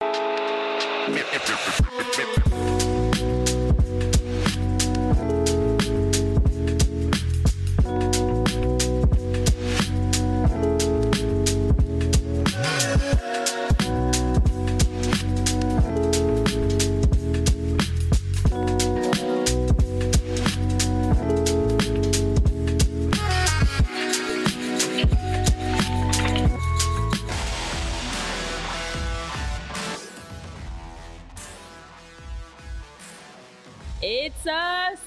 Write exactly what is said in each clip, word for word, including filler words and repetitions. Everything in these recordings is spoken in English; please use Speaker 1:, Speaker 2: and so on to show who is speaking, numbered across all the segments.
Speaker 1: It's a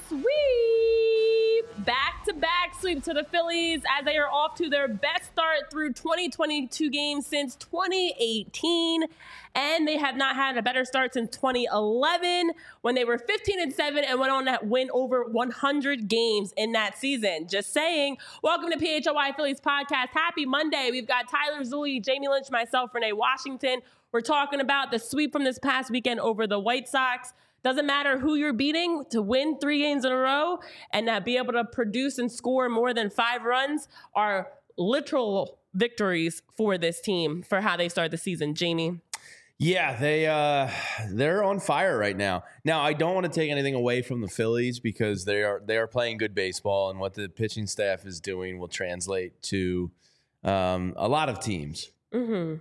Speaker 1: sweep, back-to-back sweep to the Phillies as they are off to their best start through twenty twenty-two games since twenty eighteen, and they have not had a better start since twenty eleven when they were fifteen and seven and went on to win over one hundred games in that season. Just saying. Welcome to P H O Y Phillies podcast. Happy Monday. We've got Tyler Zulli, Jamie Lynch, myself, Renee Washington. We're talking about the sweep from this past weekend over the White Sox. Doesn't matter who you're beating, to win three games in a row and uh, be able to produce and score more than five runs are literal victories for this team for how they start the season. Jamie?
Speaker 2: Yeah, they, uh, they're on fire right now. Now, I don't want to take anything away from the Phillies because they are they are playing good baseball, and what the pitching staff is doing will translate to um, a lot of teams.
Speaker 1: Mm-hmm.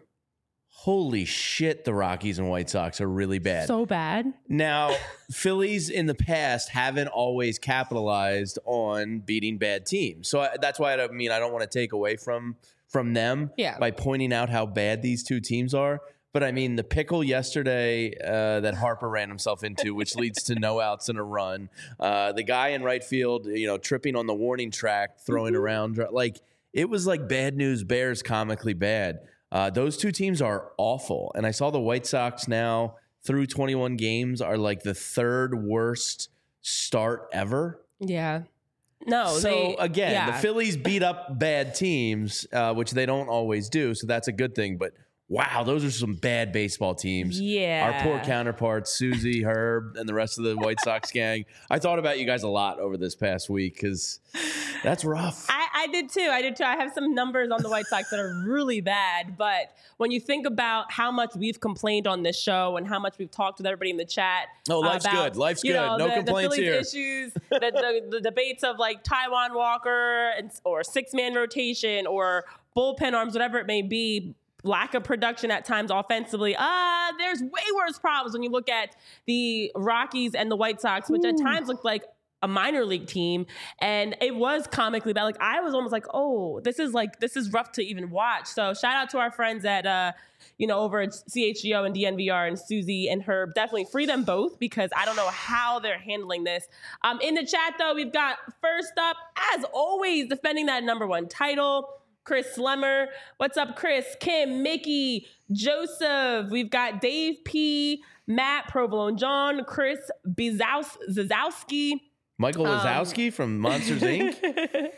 Speaker 2: Holy shit, the Rockies and White Sox are really bad.
Speaker 1: So bad.
Speaker 2: Now, Phillies in the past haven't always capitalized on beating bad teams. So I, that's why I mean I don't want to take away from from them
Speaker 1: yeah.
Speaker 2: by pointing out how bad these two teams are. But I mean, the pickle yesterday uh, that Harper ran himself into, which leads to no outs and a run. Uh, the guy in right field, you know, tripping on the warning track, throwing
Speaker 1: mm-hmm.
Speaker 2: around. Like, it was like Bad News Bears comically bad. Uh, those two teams are awful. And I saw the White Sox now through twenty-one games are like the third worst start ever.
Speaker 1: Yeah. No.
Speaker 2: So
Speaker 1: they,
Speaker 2: again,
Speaker 1: yeah.
Speaker 2: the Phillies beat up bad teams, uh, which they don't always do. So that's a good thing. But wow, those are some bad baseball teams.
Speaker 1: Yeah.
Speaker 2: Our poor counterparts, Susie, Herb, and the rest of the White Sox gang. I thought about you guys a lot over this past week because that's rough.
Speaker 1: I, I did too. I did too. I have some numbers on the White Sox that are really bad. But when you think about how much we've complained on this show and how much we've talked with everybody in the chat.
Speaker 2: Oh, life's
Speaker 1: about,
Speaker 2: good. Life's
Speaker 1: you
Speaker 2: good.
Speaker 1: know,
Speaker 2: No
Speaker 1: the,
Speaker 2: complaints
Speaker 1: the Phillies
Speaker 2: here.
Speaker 1: Issues, the, the, the debates of like Taijuan Walker and, or six-man rotation or bullpen arms, whatever it may be. Lack of production at times offensively. Uh, there's way worse problems when you look at the Rockies and the White Sox, which Ooh. at times looked like a minor league team. And it was comically bad. Like, I was almost like, oh, this is like, this is rough to even watch. So shout out to our friends at, uh, you know, over at C H G O and D N V R and Susie and Herb. Definitely free them both because I don't know how they're handling this. Um, in the chat, though, we've got first up, as always, defending that number one title, Chris Slemmer. What's up, Chris? Kim, Mickey, Joseph. We've got Dave P, Matt, Provolone John, Chris Bizaus- Zazowski.
Speaker 2: Michael Wazowski um, from Monsters, Incorporated.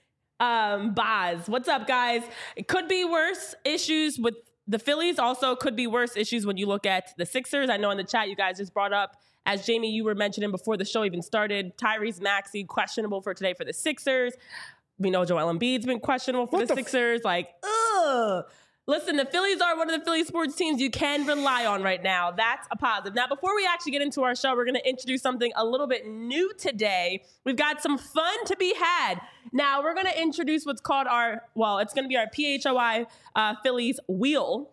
Speaker 1: um, Boz. What's up, guys? It could be worse issues with the Phillies. Also could be worse issues when you look at the Sixers. I know in the chat you guys just brought up, as Jamie, you were mentioning before the show even started, Tyrese Maxey questionable for today for the Sixers. We know Joel Embiid's been questionable for what the, the Sixers. F- like, ugh. Listen, the Phillies are one of the Philly sports teams you can rely on right now. That's a positive. Now, before we actually get into our show, we're going to introduce something a little bit new today. We've got some fun to be had. Now, we're going to introduce what's called our, well, it's going to be our P H O I uh, Phillies wheel.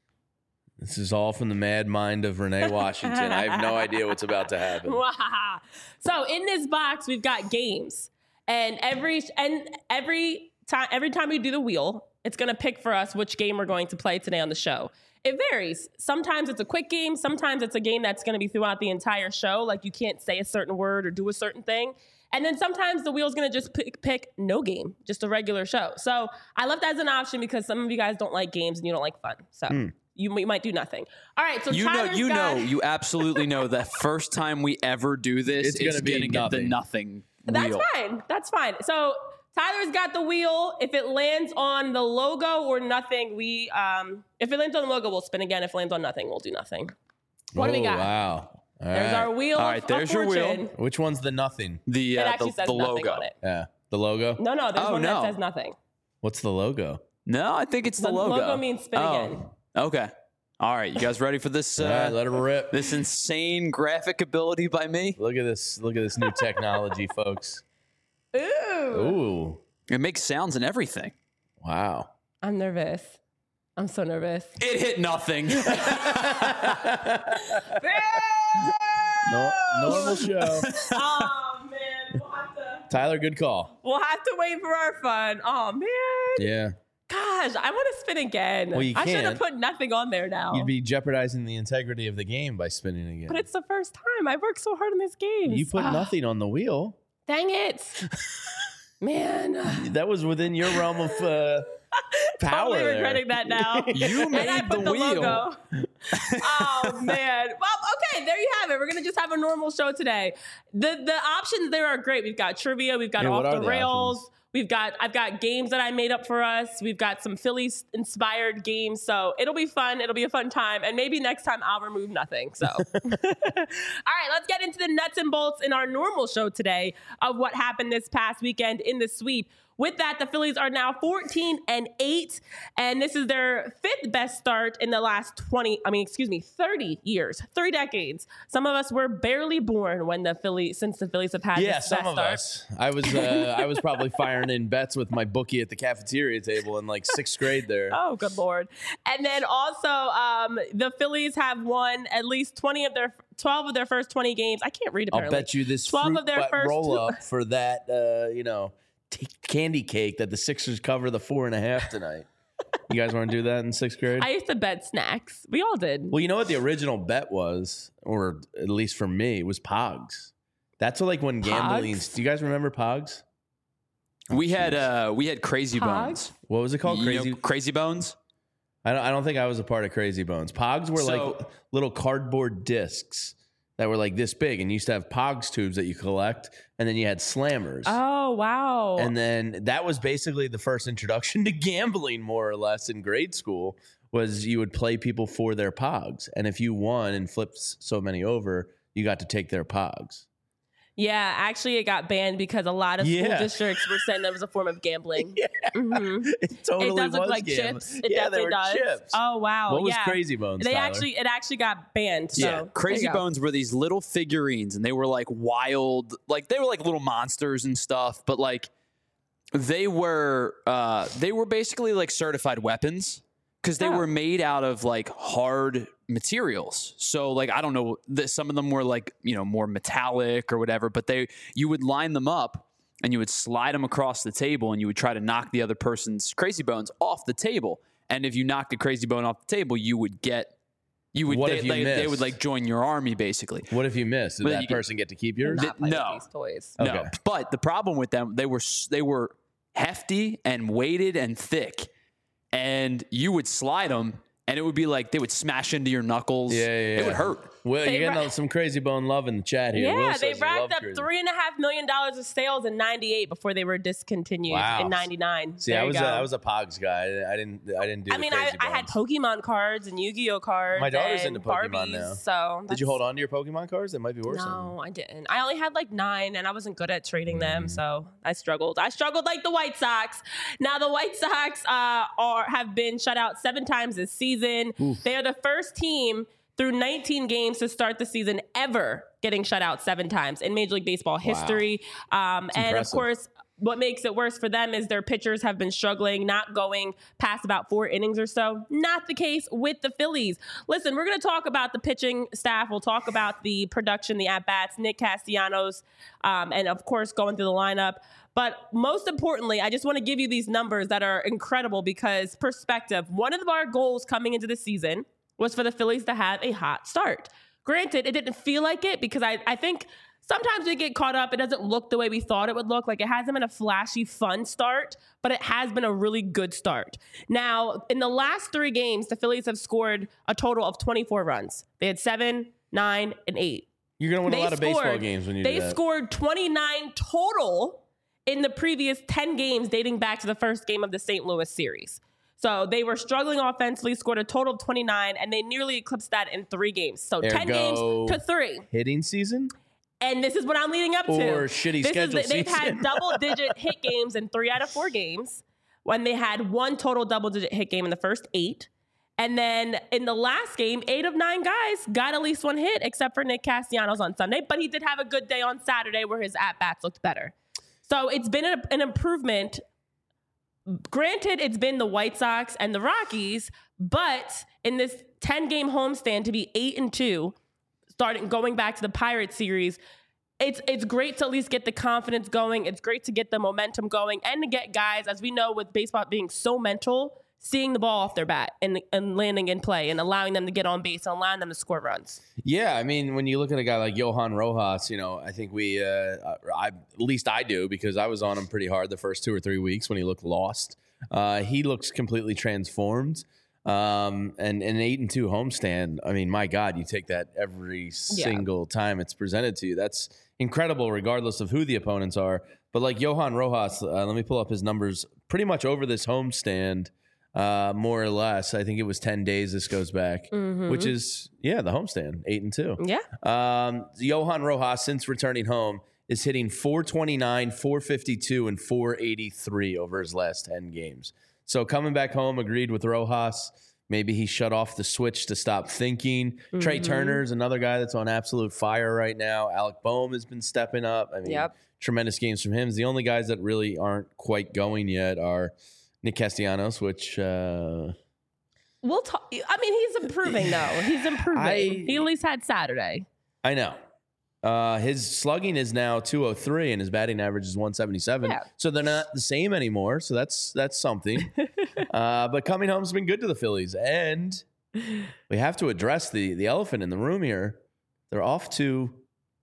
Speaker 2: This is all from the mad mind of Renee Washington. I have no idea what's about to happen.
Speaker 1: So in this box, we've got games. And every and every time every time we do the wheel, it's going to pick for us which game we're going to play today on the show. It varies. Sometimes it's a quick game. Sometimes it's a game that's going to be throughout the entire show. Like you can't say a certain word or do a certain thing. And then sometimes the wheel's going to just pick, pick no game, just a regular show. So I left that as an option because some of you guys don't like games and you don't like fun. So mm. you, you might do nothing. All right. So
Speaker 3: you
Speaker 1: Tyler's
Speaker 3: know, you
Speaker 1: got,
Speaker 3: know, you absolutely know that first time we ever do this,
Speaker 2: it's going to be
Speaker 3: get
Speaker 2: nothing.
Speaker 3: the nothing.
Speaker 1: That's
Speaker 3: wheel.
Speaker 1: fine. That's fine. So Tyler's got the wheel. If it lands on the logo or nothing, we um, if it lands on the logo, we'll spin again. If it lands on nothing, we'll do nothing. What
Speaker 2: oh,
Speaker 1: do we got?
Speaker 2: Wow. All
Speaker 1: there's
Speaker 2: right.
Speaker 1: our wheel.
Speaker 3: All right, there's
Speaker 1: of
Speaker 3: your
Speaker 1: fortune.
Speaker 3: wheel.
Speaker 2: Which one's the nothing?
Speaker 3: The uh,
Speaker 1: it actually
Speaker 3: the,
Speaker 1: says
Speaker 3: the
Speaker 1: nothing
Speaker 3: logo
Speaker 1: on it.
Speaker 2: Yeah, the logo.
Speaker 1: No, no, there's
Speaker 3: oh,
Speaker 1: one
Speaker 3: no.
Speaker 1: that says nothing.
Speaker 2: What's the logo?
Speaker 3: No, I think it's the,
Speaker 1: the
Speaker 3: logo.
Speaker 1: logo means spin
Speaker 3: oh.
Speaker 1: again.
Speaker 3: Okay. All right, you guys ready for this? Uh,
Speaker 2: All right, let her rip.
Speaker 3: This insane graphic ability by me.
Speaker 2: Look at this. Look at this new technology, folks.
Speaker 1: Ooh.
Speaker 2: Ooh.
Speaker 3: It makes sounds and everything.
Speaker 2: Wow.
Speaker 1: I'm nervous. I'm so nervous.
Speaker 3: It hit nothing.
Speaker 2: No, normal show.
Speaker 1: Oh, man. We'll have, to,
Speaker 2: Tyler, good call.
Speaker 1: we'll have to wait for our fun. Oh, man.
Speaker 2: Yeah.
Speaker 1: Gosh, I want to spin again.
Speaker 2: Well, you
Speaker 1: I should have
Speaker 2: can't.
Speaker 1: put nothing on there now.
Speaker 2: You'd be jeopardizing the integrity of the game by spinning again.
Speaker 1: But it's the first time. I worked so hard on this game.
Speaker 2: You put
Speaker 1: Ah,
Speaker 2: nothing on the wheel.
Speaker 1: Dang it. Man.
Speaker 2: That was within your realm of uh, power.
Speaker 1: Totally
Speaker 2: there.
Speaker 1: regretting that now.
Speaker 3: You
Speaker 1: And I
Speaker 3: made
Speaker 1: put
Speaker 3: the
Speaker 1: the
Speaker 3: wheel.
Speaker 1: logo. Oh man. Well, okay, there you have it. We're gonna just have a normal show today. The the options there are great. We've got trivia, we've got
Speaker 2: Yeah, what
Speaker 1: off
Speaker 2: are
Speaker 1: the
Speaker 2: the
Speaker 1: rails.
Speaker 2: options?
Speaker 1: We've got I've got games that I made up for us. We've got some Phillies inspired games. So it'll be fun. It'll be a fun time. And maybe next time I'll remove nothing. So all right, let's get into the nuts and bolts in our normal show today of what happened this past weekend in the sweep. With that, the Phillies are now fourteen and eight, and this is their fifth best start in the last twenty, I mean, excuse me, thirty years, three decades. Some of us were barely born when the Phillies, since the Phillies have had
Speaker 2: Yeah,
Speaker 1: this
Speaker 2: some
Speaker 1: best
Speaker 2: of
Speaker 1: start.
Speaker 2: us. I was uh, I was probably firing in bets with my bookie at the cafeteria table in like sixth grade there.
Speaker 1: Oh, good Lord. And then also, um, the Phillies have won at least twenty of their, twelve of their first twenty games. I can't read
Speaker 2: I'll
Speaker 1: apparently.
Speaker 2: bet you this
Speaker 1: twelve
Speaker 2: fruit
Speaker 1: of their
Speaker 2: butt
Speaker 1: first
Speaker 2: roll
Speaker 1: two-
Speaker 2: up for that, uh, you know, t- candy cake that the Sixers cover the four and a half tonight. You guys want to do that in sixth grade?
Speaker 1: I used to bet snacks. We all did.
Speaker 2: Well, you know what the original bet was, or at least for me, was Pogs. That's what, like when gambling.
Speaker 1: Pogs?
Speaker 2: Do you guys remember Pogs?
Speaker 3: We had uh, we had Crazy
Speaker 1: Pogs?
Speaker 3: Bones.
Speaker 2: What was it called?
Speaker 3: You
Speaker 2: Crazy.
Speaker 3: know Crazy Bones.
Speaker 2: I don't. I don't think I was a part of Crazy Bones. Pogs were
Speaker 3: So-
Speaker 2: like little cardboard discs that were like this big, and you used to have Pogs tubes that you collect, and then you had Slammers.
Speaker 1: Oh, wow.
Speaker 2: And then that was basically the first introduction to gambling, more or less, in grade school. Was you would play people for their Pogs, and if you won and flipped s- so many over, you got to take their Pogs.
Speaker 1: Yeah, actually, it got banned because a lot of school
Speaker 2: Yeah.
Speaker 1: districts were saying that was a form of gambling.
Speaker 2: Yeah,
Speaker 1: Mhm.
Speaker 2: it totally
Speaker 1: It does look
Speaker 2: was
Speaker 1: like
Speaker 2: gambling.
Speaker 1: chips. It
Speaker 2: yeah, they
Speaker 1: definitely
Speaker 2: were
Speaker 1: does.
Speaker 2: chips.
Speaker 1: Oh wow!
Speaker 2: What was
Speaker 1: yeah.
Speaker 2: Crazy Bones?
Speaker 1: They
Speaker 2: Tyler?
Speaker 1: actually, it actually got banned. So
Speaker 3: Yeah,
Speaker 1: there
Speaker 3: Crazy
Speaker 1: you go.
Speaker 3: Bones were these little figurines, and they were like wild, like they were like little monsters and stuff. But like they were, uh, they were basically like certified weapons because they
Speaker 1: Oh.
Speaker 3: were made out of like hard materials. So like I don't know, that some of them were like you know more metallic or whatever. But they, you would line them up and you would slide them across the table, and you would try to knock the other person's Crazy Bones off the table. And if you knocked the Crazy Bone off the table, you would get. You would
Speaker 2: What
Speaker 3: they,
Speaker 2: if you
Speaker 3: they, they would
Speaker 2: missed?
Speaker 3: like join your army basically.
Speaker 2: What if you missed? Did
Speaker 3: But
Speaker 2: that
Speaker 3: you get-
Speaker 2: person get to keep yours?
Speaker 1: Not play with
Speaker 3: No.
Speaker 1: these toys.
Speaker 3: No,
Speaker 2: Okay.
Speaker 3: but the problem with them, they were s- they were hefty and weighted and thick, and you would slide them, and it would be like they would smash into your knuckles.
Speaker 2: Yeah, yeah,
Speaker 3: It
Speaker 2: yeah.
Speaker 3: would hurt.
Speaker 2: Well,
Speaker 1: They
Speaker 2: you're getting
Speaker 1: ra-
Speaker 2: some Crazy Bone love in the chat here.
Speaker 1: Yeah,
Speaker 2: Will
Speaker 1: they
Speaker 2: says he
Speaker 1: racked
Speaker 2: loved
Speaker 1: up
Speaker 2: Crazy-
Speaker 1: three and a half million dollars of sales in ninety-eight before they were discontinued
Speaker 2: Wow.
Speaker 1: in ninety-nine.
Speaker 2: See,
Speaker 1: There
Speaker 2: I
Speaker 1: you
Speaker 2: was a,
Speaker 1: go.
Speaker 2: I was a Pogs guy. I didn't I didn't do.
Speaker 1: I
Speaker 2: the
Speaker 1: mean, I,
Speaker 2: Crazy
Speaker 1: I had
Speaker 2: Bones.
Speaker 1: Pokemon cards and Yu-Gi-Oh cards.
Speaker 2: My daughter's
Speaker 1: and
Speaker 2: into Pokemon
Speaker 1: Barbies,
Speaker 2: now.
Speaker 1: So
Speaker 2: Did you
Speaker 1: that's-
Speaker 2: hold on to your Pokemon cards? That might be worse.
Speaker 1: No, I didn't. I only had like nine, and I wasn't good at trading them,
Speaker 2: Mm.
Speaker 1: so I struggled. I struggled like the White Sox. Now the White Sox uh, are have been shut out seven times this season. They are the first team through nineteen games to start the season ever getting shut out seven times in Major League Baseball history. Um, and
Speaker 2: impressive.
Speaker 1: of course, what makes it worse for them is their pitchers have been struggling, not going past about four innings or so. Not the case with the Phillies. Listen, we're going to talk about the pitching staff. We'll talk about the production, the at-bats, Nick Castellanos, um, and of course, going through the lineup. But most importantly, I just want to give you these numbers that are incredible because perspective. One of our goals coming into the season was for the Phillies to have a hot start. Granted, it didn't feel like it because I, I think sometimes we get caught up. It doesn't look the way we thought it would look. Like it hasn't been a flashy, fun start, but it has been a really good start. Now, in the last three games, the Phillies have scored a total of twenty-four runs. They had seven, nine, and eight.
Speaker 2: You're gonna win
Speaker 1: They
Speaker 2: a lot of baseball
Speaker 1: scored-
Speaker 2: games when you
Speaker 1: They
Speaker 2: do that.
Speaker 1: scored twenty-nine total in the previous ten games dating back to the first game of the Saint Louis series. So they were struggling offensively, scored a total of twenty-nine, and they nearly eclipsed that in three games. So ten games
Speaker 2: Ergo-
Speaker 1: to three.
Speaker 2: Hitting season
Speaker 1: And this is what I'm leading up to.
Speaker 2: or shitty
Speaker 1: This
Speaker 2: schedule
Speaker 1: is, they've
Speaker 2: season.
Speaker 1: had double-digit hit games in three out of four games when they had one total double-digit hit game in the first eight. And then in the last game, eight of nine guys got at least one hit, except for Nick Castellanos on Sunday. But he did have a good day on Saturday where his at-bats looked better. So it's been a, an improvement. Granted, it's been the White Sox and the Rockies, but in this ten-game homestand to be eight and two, starting going back to the Pirates series, it's it's great to at least get the confidence going. It's great to get the momentum going and to get guys, as we know with baseball being so mental, seeing the ball off their bat and, and landing in play and allowing them to get on base and allowing them to score runs.
Speaker 2: Yeah, I mean, when you look at a guy like Johan Rojas, you know, I think we, uh, I, at least I do, because I was on him pretty hard the first two or three weeks when he looked lost. Uh, he looks completely transformed. Um, and an eight and two homestand, I mean, my God, you take that every yeah. single time it's presented to you. That's incredible, regardless of who the opponents are. But like Johan Rojas, uh, let me pull up his numbers pretty much over this homestand. Uh, more or less, I think it was ten days. This goes back, mm-hmm. which is yeah, the homestand, eight and two.
Speaker 1: Yeah.
Speaker 2: Um, Johan Rojas, since returning home, is hitting four twenty-nine, four fifty-two, and four eighty-three over his last ten games. So coming back home, agreed with Rojas. Maybe he shut off the switch to stop thinking. Mm-hmm. Trey Turner's another guy that's on absolute fire right now. Alec Boehm has been stepping up. I mean, yep. tremendous games from him. The only guys that really aren't quite going yet are Nick Castellanos, which uh,
Speaker 1: we'll talk. I mean, he's improving though. He's improving. I, he at least had Saturday.
Speaker 2: I know. Uh, his slugging is now two oh three and his batting average is one seventy-seven. Yeah. So they're not the same anymore. So that's that's something. uh, but coming home's been good to the Phillies, and we have to address the the elephant in the room here. They're off to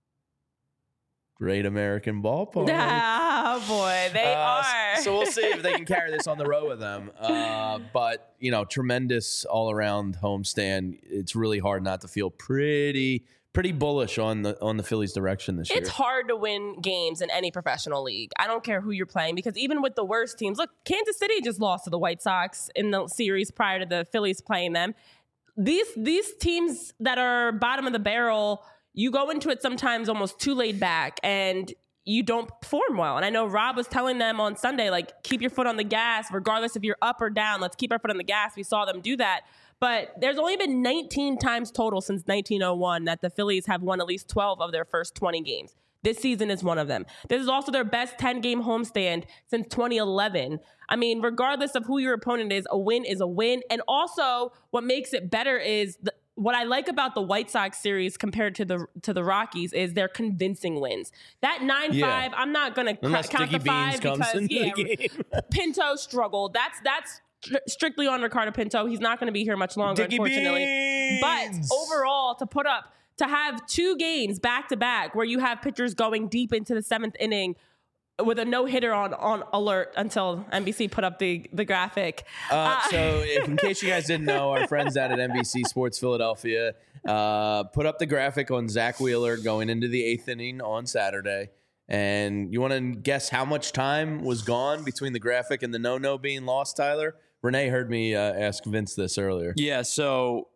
Speaker 2: Great American Ballpark.
Speaker 1: Oh, boy, they uh, are.
Speaker 2: So we'll see if they can carry this on the road with them. Uh, but, you know, tremendous all-around homestand. It's really hard not to feel pretty pretty bullish on the on the Phillies' direction this year.
Speaker 1: It's hard to win games in any professional league. I don't care who you're playing, because even with the worst teams, look, Kansas City just lost to the White Sox in the series prior to the Phillies playing them. These These teams that are bottom of the barrel, you go into it sometimes almost too laid back and you don't perform well. And I know Rob was telling them on Sunday, like, keep your foot on the gas, regardless if you're up or down. Let's keep our foot on the gas. We saw them do that. But there's only been nineteen times total since nineteen oh one that the Phillies have won at least twelve of their first twenty games. This season is one of them. This is also their best ten-game homestand since twenty eleven. I mean, regardless of who your opponent is, a win is a win. And also, what makes it better is the, what I like about the White Sox series compared to the to the Rockies is their convincing wins. That nine five, yeah. I'm not going to count the five because yeah, Pinto struggled. That's that's strictly on Ricardo Pinto. He's not going to be here much longer, Dickie unfortunately. Beans. But overall, to put up, to have two games back to back where you have pitchers going deep into the seventh inning with a no-hitter on, on alert until N B C put up the, the graphic.
Speaker 2: Uh, uh, so if, in case you guys didn't know, our friends out at N B C Sports Philadelphia uh, put up the graphic on Zach Wheeler going into the eighth inning on Saturday. And you want to guess how much time was gone between the graphic and the no-no being lost, Tyler? Renee heard me uh, ask Vince this earlier.
Speaker 3: Yeah, so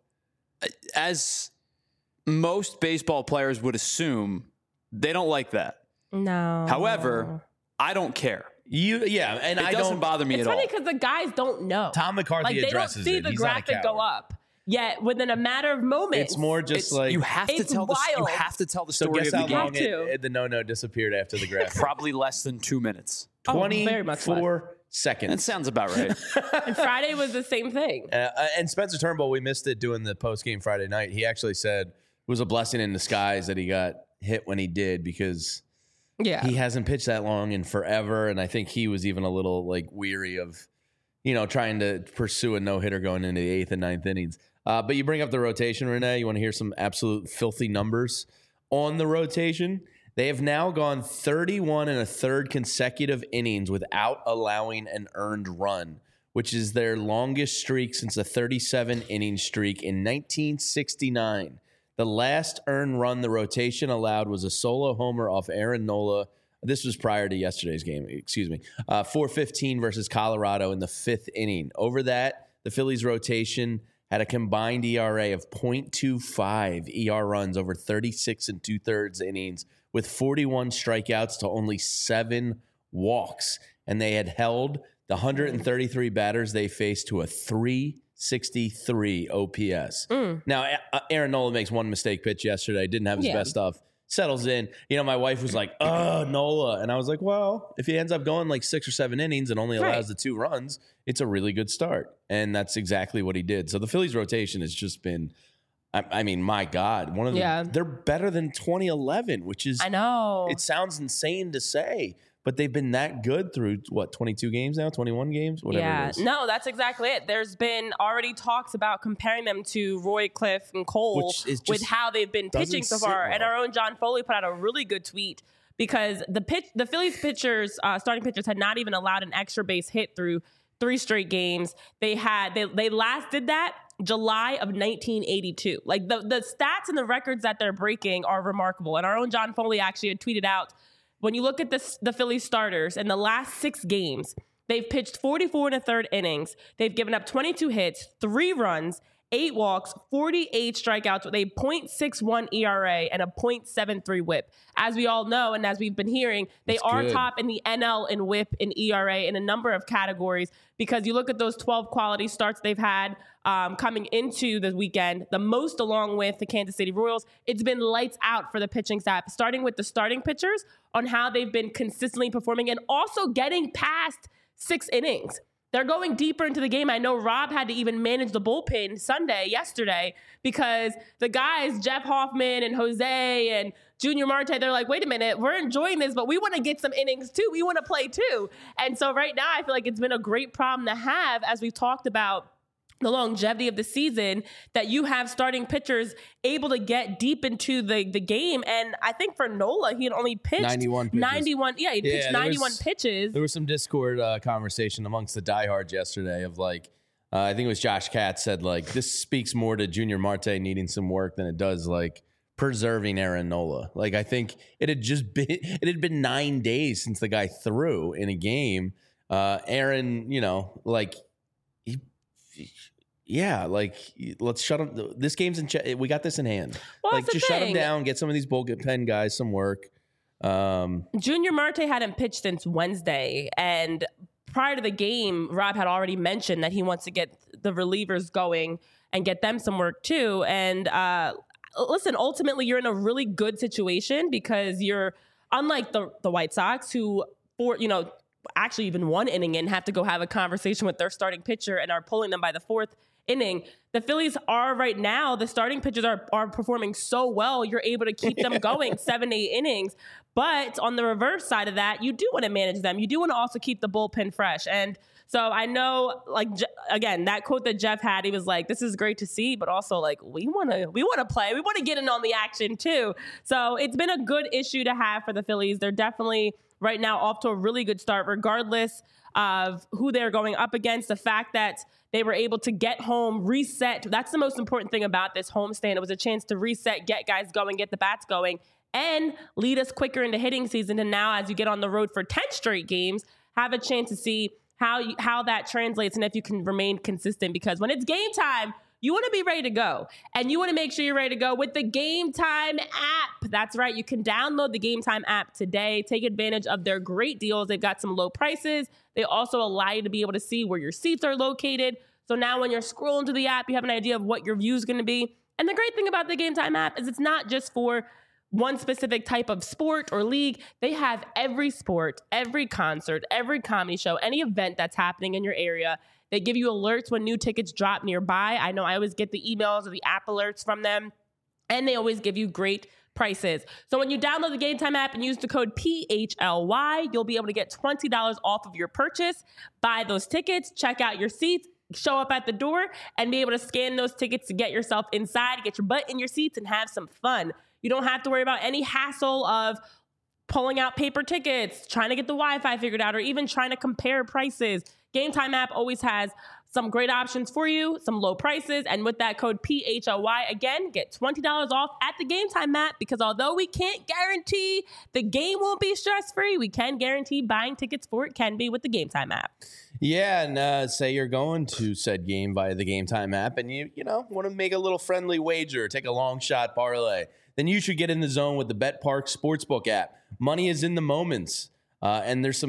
Speaker 3: as most baseball players would assume, they don't like that.
Speaker 1: No.
Speaker 3: However, I don't care.
Speaker 2: You, yeah, and
Speaker 3: it
Speaker 2: I
Speaker 3: doesn't
Speaker 2: don't
Speaker 3: bother me
Speaker 1: it's
Speaker 3: at all.
Speaker 1: It's funny because the guys don't know.
Speaker 2: Tom McCarthy
Speaker 1: like,
Speaker 2: addresses it.
Speaker 1: They don't see
Speaker 2: it.
Speaker 1: the
Speaker 2: He's
Speaker 1: graphic go up. Yet within a matter of moments,
Speaker 2: it's more just
Speaker 3: it's,
Speaker 2: like
Speaker 3: you have to tell the you have to tell the story
Speaker 2: so guess
Speaker 3: of
Speaker 2: how
Speaker 3: the
Speaker 2: long
Speaker 3: game.
Speaker 2: It, it, the no-no disappeared after the graphic.
Speaker 3: Probably less than two minutes.
Speaker 2: twenty-four
Speaker 1: oh,
Speaker 2: seconds.
Speaker 3: That sounds about right.
Speaker 1: And Friday was the same thing.
Speaker 2: Uh, and Spencer Turnbull, we missed it doing the post-game Friday night. He actually said it was a blessing in disguise that he got hit when he did, because
Speaker 1: yeah,
Speaker 2: he hasn't pitched that long in forever. And I think he was even a little like weary of, you know, trying to pursue a no-hitter going into the eighth and ninth innings. Uh, but you bring up the rotation, Renee. You want to hear some absolute filthy numbers on the rotation? They have now gone thirty-one and a third consecutive innings without allowing an earned run, which is their longest streak since a thirty-seven inning streak in nineteen sixty-nine. The last earned run the rotation allowed was a solo homer off Aaron Nola. This was prior to yesterday's game, excuse me. Uh, four fifteen versus Colorado in the fifth inning. Over that, the Phillies rotation had a combined E R A of point two five E R runs over thirty-six and two-thirds innings, with forty-one strikeouts to only seven walks. And they had held the one hundred thirty-three batters they faced to a three sixty-three O P S. Mm. Now, Aaron Nola makes one mistake pitch yesterday, didn't have his yeah. best stuff, settles in. You know, my wife was like, oh, Nola. And I was like, well, if he ends up going like six or seven innings and only allows right. the two runs, it's a really good start. And that's exactly what he did. So the Phillies rotation has just been, I, I mean, my God, one of the, yeah. they're better than twenty eleven, which is,
Speaker 1: I know.
Speaker 2: It sounds insane to say. But they've been that good through, what, twenty-two games now, twenty-one games, whatever
Speaker 1: yeah.
Speaker 2: it is.
Speaker 1: No, that's exactly it. There's been already talks about comparing them to Roy, Cliff, and Cole with how they've been pitching so far. Well. And our own John Foley put out a really good tweet because the pitch, the Phillies pitchers, uh, starting pitchers, had not even allowed an extra base hit through three straight games. They had they they last did that July of nineteen eighty-two. Like the the stats and the records that they're breaking are remarkable. And our own John Foley actually had tweeted out, when you look at this, the Phillies starters in the last six games, they've pitched forty-four and a third innings. They've given up twenty-two hits, three runs, eight walks, forty-eight strikeouts with a point six one E R A and a point seven three whip. As we all know, and as we've been hearing, they That's are good. top in the N L in whip and E R A in a number of categories because you look at those twelve quality starts they've had um, coming into the weekend, the most along with the Kansas City Royals. It's been lights out for the pitching staff, starting with the starting pitchers on how they've been consistently performing and also getting past six innings. They're going deeper into the game. I know Rob had to even manage the bullpen Sunday, yesterday, because the guys, Jeff Hoffman and Jose and Junior Marte, they're like, wait a minute, we're enjoying this, but we want to get some innings too. We want to play too. And so right now, I feel like it's been a great problem to have, as we've talked about the longevity of the season, that you have starting pitchers able to get deep into the, the game. And I think for Nola, he had only pitched
Speaker 2: ninety-one pitches.
Speaker 1: ninety-one. Yeah, he yeah, pitched ninety-one
Speaker 2: was,
Speaker 1: pitches.
Speaker 2: There was some Discord uh, conversation amongst the diehards yesterday of like, uh, I think it was Josh Katz said like, this speaks more to Junior Marte needing some work than it does like preserving Aaron Nola. Like, I think it had just been, it had been nine days since the guy threw in a game. Uh, Aaron, you know, like he, he Yeah, like let's shut him. This game's in. Ch- we got this in hand.
Speaker 1: Well,
Speaker 2: like just shut him down. Get some of these bullpen guys some work. Um,
Speaker 1: Junior Marte hadn't pitched since Wednesday, and prior to the game, Rob had already mentioned that he wants to get the relievers going and get them some work too. And uh, listen, ultimately, you're in a really good situation because you're unlike the the White Sox, who for you know actually even one inning in have to go have a conversation with their starting pitcher and are pulling them by the fourth inning. The Phillies are right now, the starting pitchers are, are performing so well, you're able to keep them going seven, eight innings. But on the reverse side of that, you do want to manage them. You do want to also keep the bullpen fresh. And so I know, like, again, that quote that Jeff had, he was like, this is great to see, but also like, we want to, we want to play. We want to get in on the action too. So it's been a good issue to have for the Phillies. They're definitely right now off to a really good start, regardless of who they're going up against. The fact that they were able to get home, reset. That's the most important thing about this homestand. It was a chance to reset, get guys going, get the bats going, and lead us quicker into hitting season. And now as you get on the road for ten straight games, have a chance to see how you, how that translates and if you can remain consistent. Because when it's game time, you want to be ready to go. And you want to make sure you're ready to go with the Game Time app. That's right. You can download the Game Time app today. Take advantage of their great deals. They've got some low prices. They also allow you to be able to see where your seats are located. So now when you're scrolling to the app, you have an idea of what your view is going to be. And the great thing about the Game Time app is it's not just for one specific type of sport or league. They have every sport, every concert, every comedy show, any event that's happening in your area. They give you alerts when new tickets drop nearby. I know I always get the emails or the app alerts from them, and they always give you great prices. So when you download the Game Time app and use the code P H L Y, you'll be able to get twenty dollars off of your purchase. Buy those tickets, check out your seats, show up at the door, and be able to scan those tickets to get yourself inside, get your butt in your seats, and have some fun. You don't have to worry about any hassle of pulling out paper tickets, trying to get the Wi-Fi figured out, or even trying to compare prices. Game Time app always has some great options for you, some low prices, and with that code P H L Y, again, get twenty dollars off at the Game Time app, because although we can't guarantee the game won't be stress-free, we can guarantee buying tickets for it can be with the Game Time app.
Speaker 2: Yeah, and uh, say you're going to said game via the Game Time app, and you you know want to make a little friendly wager, take a long shot parlay, then you should get in the zone with the BetParx Sportsbook app. Money is in the moments, uh, and there's some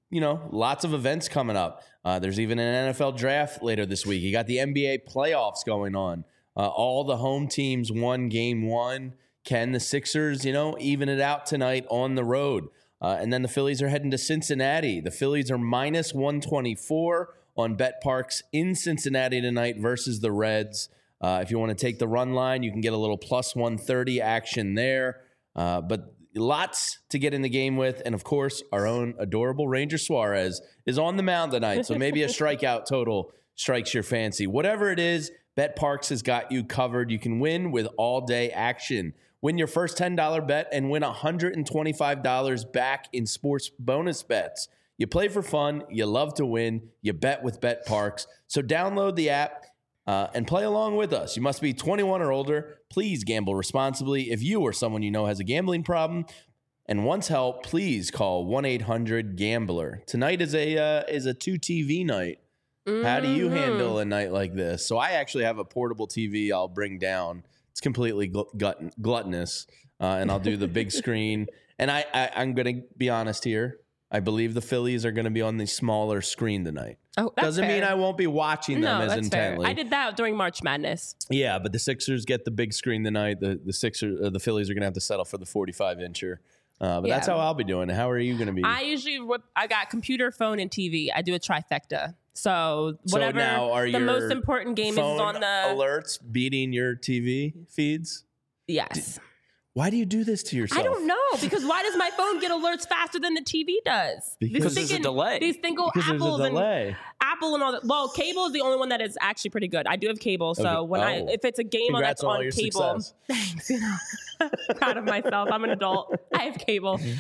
Speaker 2: you know, lots of events coming up. Uh, there's even an N F L draft later this week. You got the N B A playoffs going on. Uh, all the home teams won game one. Can the Sixers, you know, even it out tonight on the road? Uh, and then the Phillies are heading to Cincinnati. The Phillies are minus one twenty-four on BetParx in Cincinnati tonight versus the Reds. Uh, if you want to take the run line, you can get a little plus one thirty action there. Uh, but lots to get in the game with. And, of course, our own adorable Ranger Suarez is on the mound tonight. So maybe a strikeout total strikes your fancy. Whatever it is, BetParx has got you covered. You can win with all-day action. Win your first ten dollars bet and win one hundred twenty-five dollars back in sports bonus bets. You play for fun. You love to win. You bet with BetParx. So download the app uh, and play along with us. You must be twenty-one or older. Please gamble responsibly. If you or someone you know has a gambling problem and wants help, please call one eight hundred gambler. Tonight is a uh, is a two T V night. Mm-hmm. How do you handle a night like this? So I actually have a portable T V I'll bring down. It's completely gl- gut- gluttonous, uh, and I'll do the big screen. And I, I, I'm going to be honest here. I believe the Phillies are going to be on the smaller screen tonight.
Speaker 1: Oh, that's
Speaker 2: Doesn't
Speaker 1: fair.
Speaker 2: mean I won't be watching them
Speaker 1: no,
Speaker 2: as
Speaker 1: that's
Speaker 2: intently.
Speaker 1: Fair. I did that during March Madness.
Speaker 2: Yeah, but the Sixers get the big screen tonight. The the Sixers, uh, the Phillies are going to have to settle for the forty-five incher. Uh, but
Speaker 1: Yeah.
Speaker 2: that's how I'll be doing it. How are you going to be?
Speaker 1: I usually whip, I got computer, phone, and T V. I do a trifecta. So whatever
Speaker 2: so now are
Speaker 1: the
Speaker 2: your
Speaker 1: most important game is
Speaker 2: phone
Speaker 1: on the
Speaker 2: alerts beating your T V feeds?
Speaker 1: Yes.
Speaker 2: Why do you do this to yourself?
Speaker 1: I don't know, because why does my phone get alerts faster than the T V does?
Speaker 2: Because
Speaker 3: there's a delay.
Speaker 1: These single
Speaker 2: Because there's a
Speaker 1: apples and
Speaker 2: delay.
Speaker 1: Apple and all that. Well, cable is the only one that is actually pretty good. I do have cable, so
Speaker 2: Okay.
Speaker 1: when I
Speaker 2: Oh.
Speaker 1: if it's a game on
Speaker 2: Congrats
Speaker 1: that's
Speaker 2: on all
Speaker 1: on
Speaker 2: your
Speaker 1: cable,
Speaker 2: success.
Speaker 1: thanks. You know, proud of myself. I'm an adult. I have cable. Um,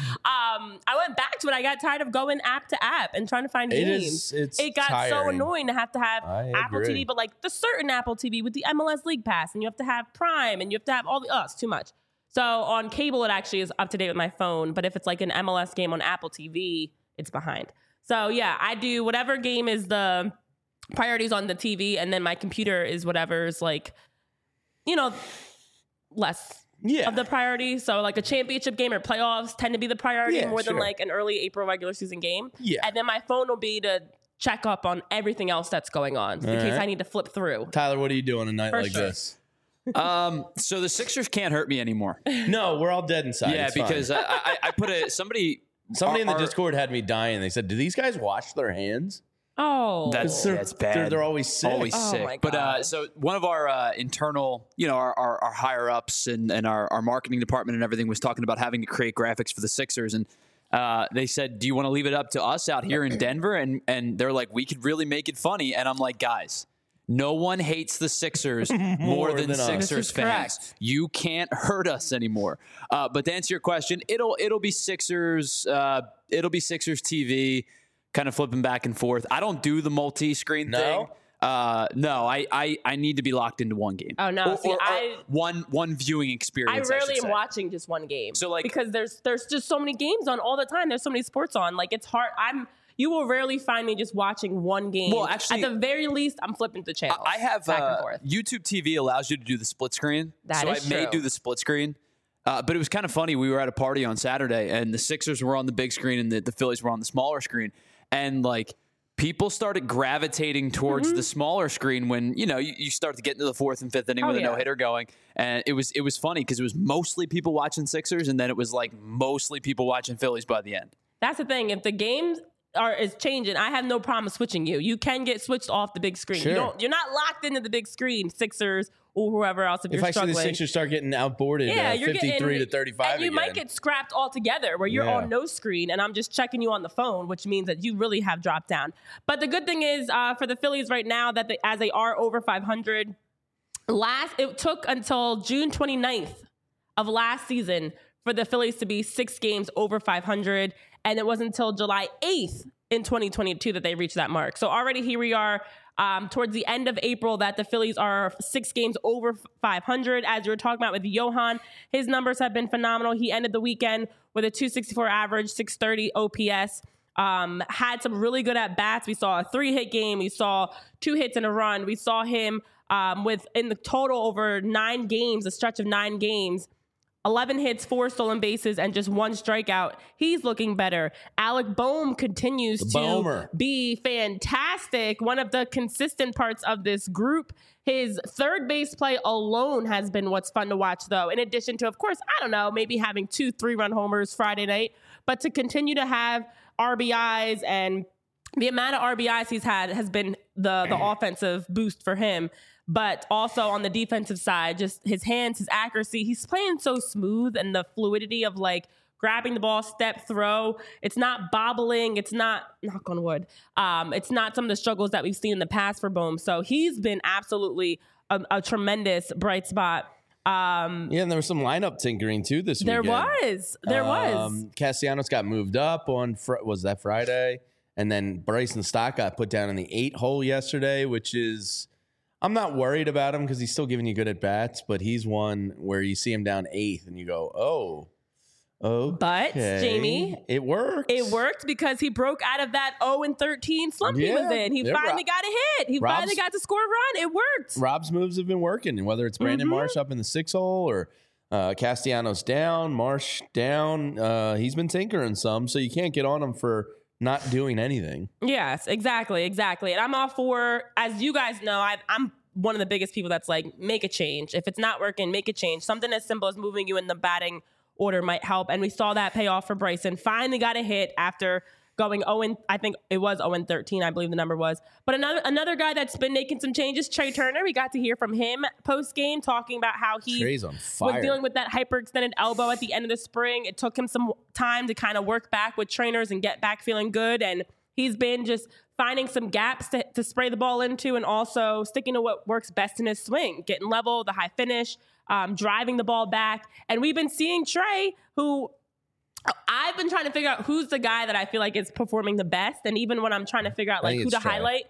Speaker 1: I went back to it. I got tired of going app to app and trying to find
Speaker 2: It
Speaker 1: games.
Speaker 2: is- it's
Speaker 1: it got so
Speaker 2: tiring.
Speaker 1: annoying to have to have
Speaker 2: I
Speaker 1: Apple T V,
Speaker 2: agree.
Speaker 1: but like the certain Apple T V with the M L S League Pass, and you have to have Prime, and you have to have all the. Oh, it's too much. So on cable, it actually is up to date with my phone. But if it's like an M L S game on Apple T V, it's behind. So yeah, I do whatever game is the priorities on the T V, and then my computer is whatever's like, you know, less
Speaker 2: Yeah.
Speaker 1: of the priority. So like a championship game or playoffs tend to be the priority
Speaker 2: Yeah,
Speaker 1: more than
Speaker 2: sure.
Speaker 1: like an early April regular season game.
Speaker 2: Yeah.
Speaker 1: And then my phone will be to check up on everything else that's going on in
Speaker 2: All
Speaker 1: case
Speaker 2: right.
Speaker 1: I need to flip through.
Speaker 2: Tyler, what are you doing a night
Speaker 1: For
Speaker 2: like
Speaker 1: sure.
Speaker 2: this?
Speaker 3: Um, so the Sixers can't hurt me anymore.
Speaker 2: No, we're all dead inside.
Speaker 3: yeah,
Speaker 2: It's fine.
Speaker 3: because I, I, I put a somebody.
Speaker 2: somebody in the
Speaker 3: our-
Speaker 2: Discord had me dying. They said, "Do these guys wash their hands?"
Speaker 1: Oh,
Speaker 3: That's
Speaker 2: They're,
Speaker 3: that's bad.
Speaker 2: They're, they're always sick.
Speaker 3: always
Speaker 1: Oh
Speaker 3: sick.
Speaker 1: my
Speaker 3: But uh,
Speaker 1: God.
Speaker 3: so one of our uh, internal, you know, our, our, our higher ups and, and our, our marketing department and everything was talking about having to create graphics for the Sixers. And uh, they said, do you want to leave it up to us out here in Denver? And, and they're like, we could really make it funny. And I'm like, guys, no one hates the Sixers more,
Speaker 2: More
Speaker 3: than,
Speaker 2: than us.
Speaker 3: Sixers
Speaker 1: This is
Speaker 3: fans.
Speaker 1: correct.
Speaker 3: You can't hurt us anymore. Uh, but to answer your question, it'll it'll be Sixers. Uh, it'll be Sixers T V. Kind of flipping back and forth. I don't do the multi-screen
Speaker 2: No?
Speaker 3: thing. Uh, no, I, I I need to be locked into one game.
Speaker 1: Oh, no.
Speaker 3: Or,
Speaker 1: See,
Speaker 3: or- or
Speaker 1: I-
Speaker 3: one one viewing
Speaker 1: I
Speaker 3: experience.
Speaker 1: rarely
Speaker 3: should
Speaker 1: am
Speaker 3: say.
Speaker 1: watching just one game.
Speaker 3: So, like-
Speaker 1: because there's there's just so many games on all the time. There's so many sports on. Like it's hard. I'm you will rarely find me just watching one game.
Speaker 3: Well, actually-
Speaker 1: at the very least, I'm flipping the channels.
Speaker 3: I have
Speaker 1: back
Speaker 3: uh,
Speaker 1: and forth.
Speaker 3: YouTube T V allows you to do the split screen.
Speaker 1: That
Speaker 3: so
Speaker 1: is
Speaker 3: I may
Speaker 1: true.
Speaker 3: do the split screen. Uh, but it was kind of funny. We were at a party on Saturday, and the Sixers were on the big screen, and the, the Phillies were on the smaller screen. And like people started gravitating towards
Speaker 1: Mm-hmm.
Speaker 3: the smaller screen when you know you, you start to get into the fourth and fifth inning
Speaker 1: Oh,
Speaker 3: with a
Speaker 1: yeah.
Speaker 3: no hitter going, and it was it was funny because it was mostly people watching Sixers, and then it was like mostly people watching Phillies by the end.
Speaker 1: That's the thing. If the game are is changing, I have no problem switching you. You can get switched off the big screen.
Speaker 2: Sure.
Speaker 1: You don't. You're not locked into the big screen, Sixers or whoever else. If,
Speaker 2: If
Speaker 1: you're
Speaker 2: I see
Speaker 1: struggling,
Speaker 2: the Sixers start getting outboarded,
Speaker 1: yeah,
Speaker 2: uh,
Speaker 1: you're
Speaker 2: fifty-three
Speaker 1: getting,
Speaker 2: to thirty-five,
Speaker 1: and you
Speaker 2: again.
Speaker 1: might get scrapped altogether, where you're
Speaker 2: Yeah.
Speaker 1: on no screen, and I'm just checking you on the phone, which means that you really have dropped down. But the good thing is uh, for the Phillies right now that they, as they are over five hundred, last it took until June twenty-ninth of last season for the Phillies to be six games over five hundred, and it wasn't until July eighth in twenty twenty-two that they reached that mark. So already here we are um, towards the end of April that the Phillies are six games over five hundred. As you were talking about with Johan, his numbers have been phenomenal. He ended the weekend with a two sixty-four average, six thirty O P S. Um, had some really good at bats. We saw a three hit game. We saw two hits and a run. We saw him um, with in the total over nine games, a stretch of nine games, eleven hits, four stolen bases, and just one strikeout. He's looking better. Alec Bohm continues
Speaker 2: The
Speaker 1: to
Speaker 2: Bohmer.
Speaker 1: be fantastic. One of the consistent parts of this group. His third base play alone has been what's fun to watch, though. In addition to, of course, I don't know, maybe having two three-run homers Friday night, but to continue to have R B Is, and the amount of R B Is he's had has been the the offensive boost for him. But also on the defensive side, just his hands, his accuracy. He's playing so smooth, and the fluidity of like grabbing the ball, step, throw. It's not bobbling. It's not, knock on wood. Um, it's not some of the struggles that we've seen in the past for Bohm. So he's been absolutely a, a tremendous bright spot. Um,
Speaker 2: Yeah, and there was some lineup tinkering too this
Speaker 1: there
Speaker 2: weekend.
Speaker 1: was. There was.
Speaker 2: Um, Castellanos got moved up on, fr- was that Friday? And then Bryson Stott got put down in the eight hole yesterday, which is, I'm not worried about him because he's still giving you good at bats, but he's one where you see him down eighth and you go, oh, oh.
Speaker 1: But, Jamie,
Speaker 2: it worked.
Speaker 1: It worked because he broke out of that oh and thirteen slump he was
Speaker 2: Yeah.
Speaker 1: in. He
Speaker 2: Yeah,
Speaker 1: finally
Speaker 2: Rob-
Speaker 1: got a hit. He
Speaker 2: Rob's-
Speaker 1: finally got to score a run. It worked.
Speaker 2: Rob's moves have been working, and whether it's Brandon
Speaker 1: Mhm.
Speaker 2: Marsh up in the six hole or uh, Castellanos down, Marsh down, uh, he's been tinkering some, so you can't get on him for not doing anything.
Speaker 1: Yes, exactly, exactly. And I'm all for, as you guys know, I, I'm one of the biggest people that's like, make a change. If it's not working, make a change. Something as simple as moving you in the batting order might help. And we saw that pay off for Bryson. Finally got a hit after going oh and I think it was oh and thirteen, I believe the number was. But another another guy that's been making some changes, Trey Turner. We got to hear from him post game talking about how he
Speaker 2: Trey's on fire.
Speaker 1: was dealing with that hyperextended elbow at the end of the spring. It took him some time to kind of work back with trainers and get back feeling good. And he's been just finding some gaps to, to spray the ball into, and also sticking to what works best in his swing, getting level, the high finish, um, driving the ball back. And we've been seeing Trey, who I've been trying to figure out who's the guy that I feel like is performing the best. And even when I'm trying to figure out
Speaker 2: I
Speaker 1: like
Speaker 2: think
Speaker 1: who to
Speaker 2: it's Trey.
Speaker 1: highlight,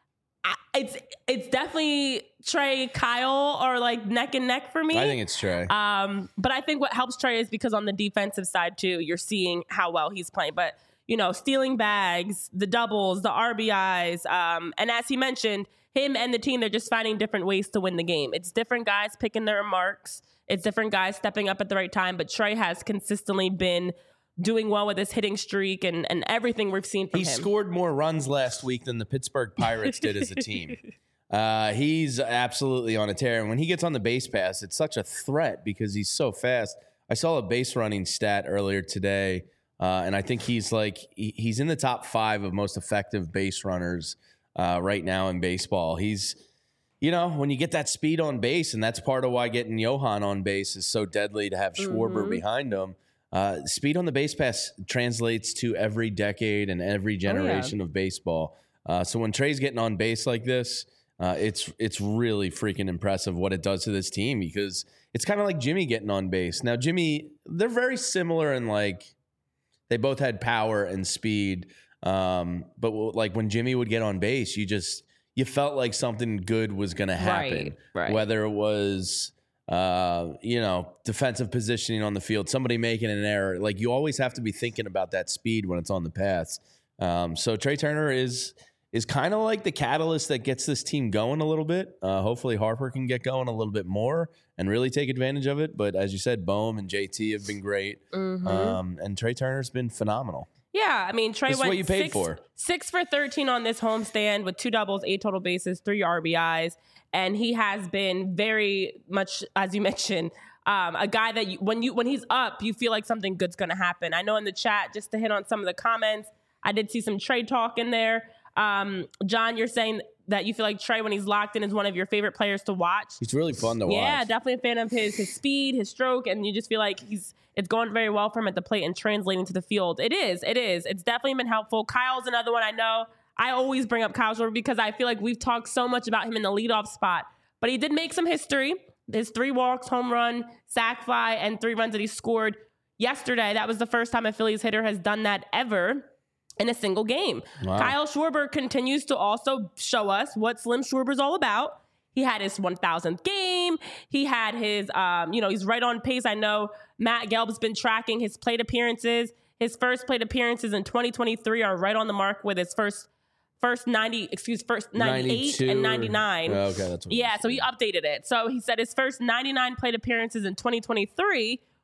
Speaker 1: I, it's it's definitely Trey, Kyle, or like neck and neck for me.
Speaker 2: I think it's Trey.
Speaker 1: Um, but I think what helps Trey is because on the defensive side too, you're seeing how well he's playing. But you know, stealing bags, the doubles, the R B Is, um, and as he mentioned, him and the team, they're just finding different ways to win the game. It's different guys picking their marks. It's different guys stepping up at the right time. But Trey has consistently been doing well with his hitting streak and, and everything we've seen from
Speaker 2: He
Speaker 1: him.
Speaker 2: scored more runs last week than the Pittsburgh Pirates did as a team. Uh, he's absolutely on a tear. And when he gets on the base pass, it's such a threat because he's so fast. I saw a base running stat earlier today, uh, and I think he's like he, he's in the top five of most effective base runners uh, right now in baseball. He's, you know, when you get that speed on base, and that's part of why getting Johan on base is so deadly to have Schwarber
Speaker 1: Mhm.
Speaker 2: behind him. Uh, speed on the base pass translates to every decade and every generation of baseball. Uh, so when Trey's getting on base like this, uh, it's it's really freaking impressive what it does to this team, because it's kind of like Jimmy getting on base. Now, Jimmy, they're very similar in like they both had power and speed, um, but like when Jimmy would get on base, you just you felt like something good was going to happen,
Speaker 1: Right, right.
Speaker 2: whether it was. Uh, you know, defensive positioning on the field, somebody making an error. Like you always have to be thinking about that speed when it's on the pass. Um, so Trey Turner is is kind of like the catalyst that gets this team going a little bit. Uh, hopefully Harper can get going a little bit more and really take advantage of it. But as you said, Bohm and J T have been great,
Speaker 1: Mhm.
Speaker 2: um, and Trey Turner's been phenomenal.
Speaker 1: Yeah, I mean, Trey
Speaker 2: This is
Speaker 1: went
Speaker 2: what you paid
Speaker 1: six,
Speaker 2: for.
Speaker 1: six for thirteen on this homestand with two doubles, eight total bases, three R B Is. And he has been very much, as you mentioned, um, a guy that you, when you when he's up, you feel like something good's going to happen. I know in the chat, just to hit on some of the comments, I did see some Trey talk in there. Um, John, you're saying that you feel like Trey, when he's locked in, is one of your favorite players to watch.
Speaker 2: He's really fun to watch.
Speaker 1: Yeah, definitely a fan of his his speed, his stroke, and you just feel like he's it's going very well for him at the plate and translating to the field. It is, it is. It's definitely been helpful. Kyle's another one I know. I always bring up Kyle Schwarber because I feel like we've talked so much about him in the leadoff spot, but he did make some history. His three walks, home run, sac fly, and three runs that he scored yesterday. That was the first time a Phillies hitter has done that ever in a single game.
Speaker 2: Wow.
Speaker 1: Kyle Schwarber continues to also show us what Slim Schwarber's all about. He had his one thousandth game. He had his, um, you know, he's right on pace. I know Matt Gelb's been tracking his plate appearances. His first plate appearances in twenty twenty-three are right on the mark with his first first ninety, excuse, first ninety-eight and ninety-nine.
Speaker 2: Okay, that's what
Speaker 1: Yeah, so he updated it. So he said his first ninety-nine plate appearances in twenty twenty-three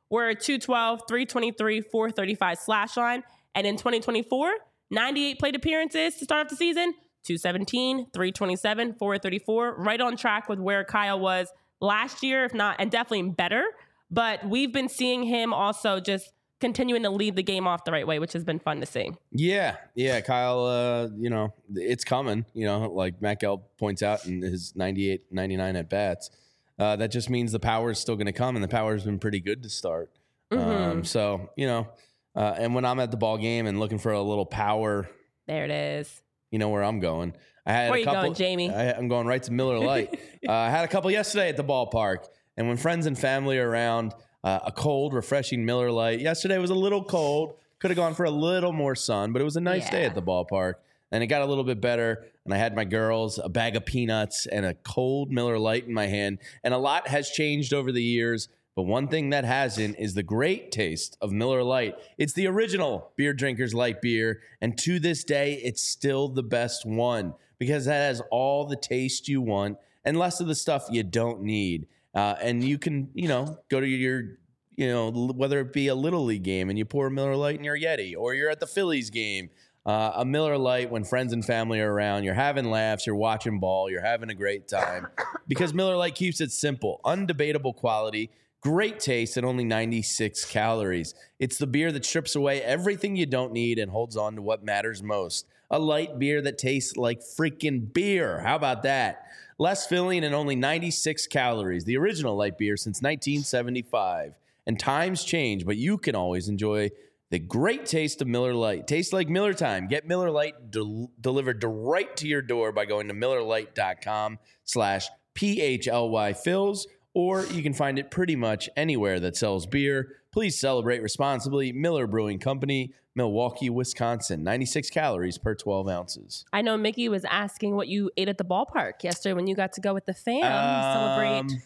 Speaker 1: We're a two twelve, three twenty-three, four thirty-five slash line. And in twenty twenty-four, ninety-eight plate appearances to start off the season, two seventeen, three twenty-seven, four thirty-four, right on track with where Kyle was last year, if not, and definitely better. But we've been seeing him also just continuing to lead the game off the right way, which has been fun to see.
Speaker 2: Yeah, yeah, Kyle, uh, you know, it's coming, you know, like Matt Gelb points out in his ninety-eight, ninety-nine at bats. Uh, that just means the power is still going to come, and the power has been pretty good to start. Mm-hmm. Um, so, you know, uh, and when I'm at the ball game and looking for a little power,
Speaker 1: there it is.
Speaker 2: You know where I'm going. I had
Speaker 1: where
Speaker 2: a
Speaker 1: you
Speaker 2: couple,
Speaker 1: going, Jamie?
Speaker 2: I, I'm going right to Miller Lite. uh, I had a couple yesterday at the ballpark, and when friends and family are around, uh, a cold, refreshing Miller Lite. Yesterday was a little cold. Could have gone for a little more sun, but it was a nice yeah. day at the ballpark. And it got a little bit better, and I had my girls a bag of peanuts and a cold Miller Lite in my hand. And a lot has changed over the years, but one thing that hasn't is the great taste of Miller Lite. It's the original beer drinkers light beer, and to this day, it's still the best one because it has all the taste you want and less of the stuff you don't need. Uh, and you can, you know, go to your, you know, whether it be a Little League game and you pour a Miller Lite in your Yeti, or you're at the Phillies game. Uh, a Miller Lite when friends and family are around, you're having laughs, you're watching ball, you're having a great time. Because Miller Lite keeps it simple, undebatable quality, great taste, and only ninety-six calories. It's the beer that strips away everything you don't need and holds on to what matters most. A light beer that tastes like freaking beer. How about that? Less filling and only ninety-six calories. The original light beer since nineteen seventy-five. And times change, but you can always enjoy the great taste of Miller Lite. Tastes like Miller time. Get Miller Lite del- delivered right to your door by going to MillerLite.com slash P-H-L-Y fills, or you can find it pretty much anywhere that sells beer. Please celebrate responsibly. Miller Brewing Company, Milwaukee, Wisconsin. ninety-six calories per twelve ounces.
Speaker 1: I know Mickey was asking what you ate at the ballpark yesterday when you got to go with the fam. Um, celebrate.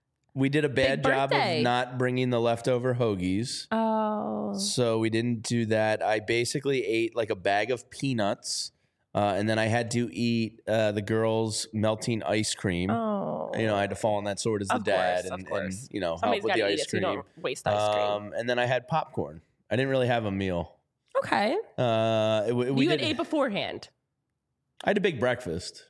Speaker 2: We did a bad job of not bringing the leftover hoagies.
Speaker 1: Oh.
Speaker 2: So we didn't do that. I basically ate like a bag of peanuts, uh, and then I had to eat uh, the girls' melting ice cream.
Speaker 1: Oh.
Speaker 2: You know, I had to fall on that sword as the
Speaker 1: of
Speaker 2: dad
Speaker 1: course,
Speaker 2: and,
Speaker 1: of
Speaker 2: and, you know,
Speaker 1: Somebody's
Speaker 2: help with the
Speaker 1: eat
Speaker 2: ice
Speaker 1: it
Speaker 2: cream.
Speaker 1: So you don't waste ice cream.
Speaker 2: Um, and then I had popcorn. I didn't really have a meal.
Speaker 1: Okay.
Speaker 2: Uh, it, we
Speaker 1: you
Speaker 2: did,
Speaker 1: had ate beforehand.
Speaker 2: I had a big breakfast.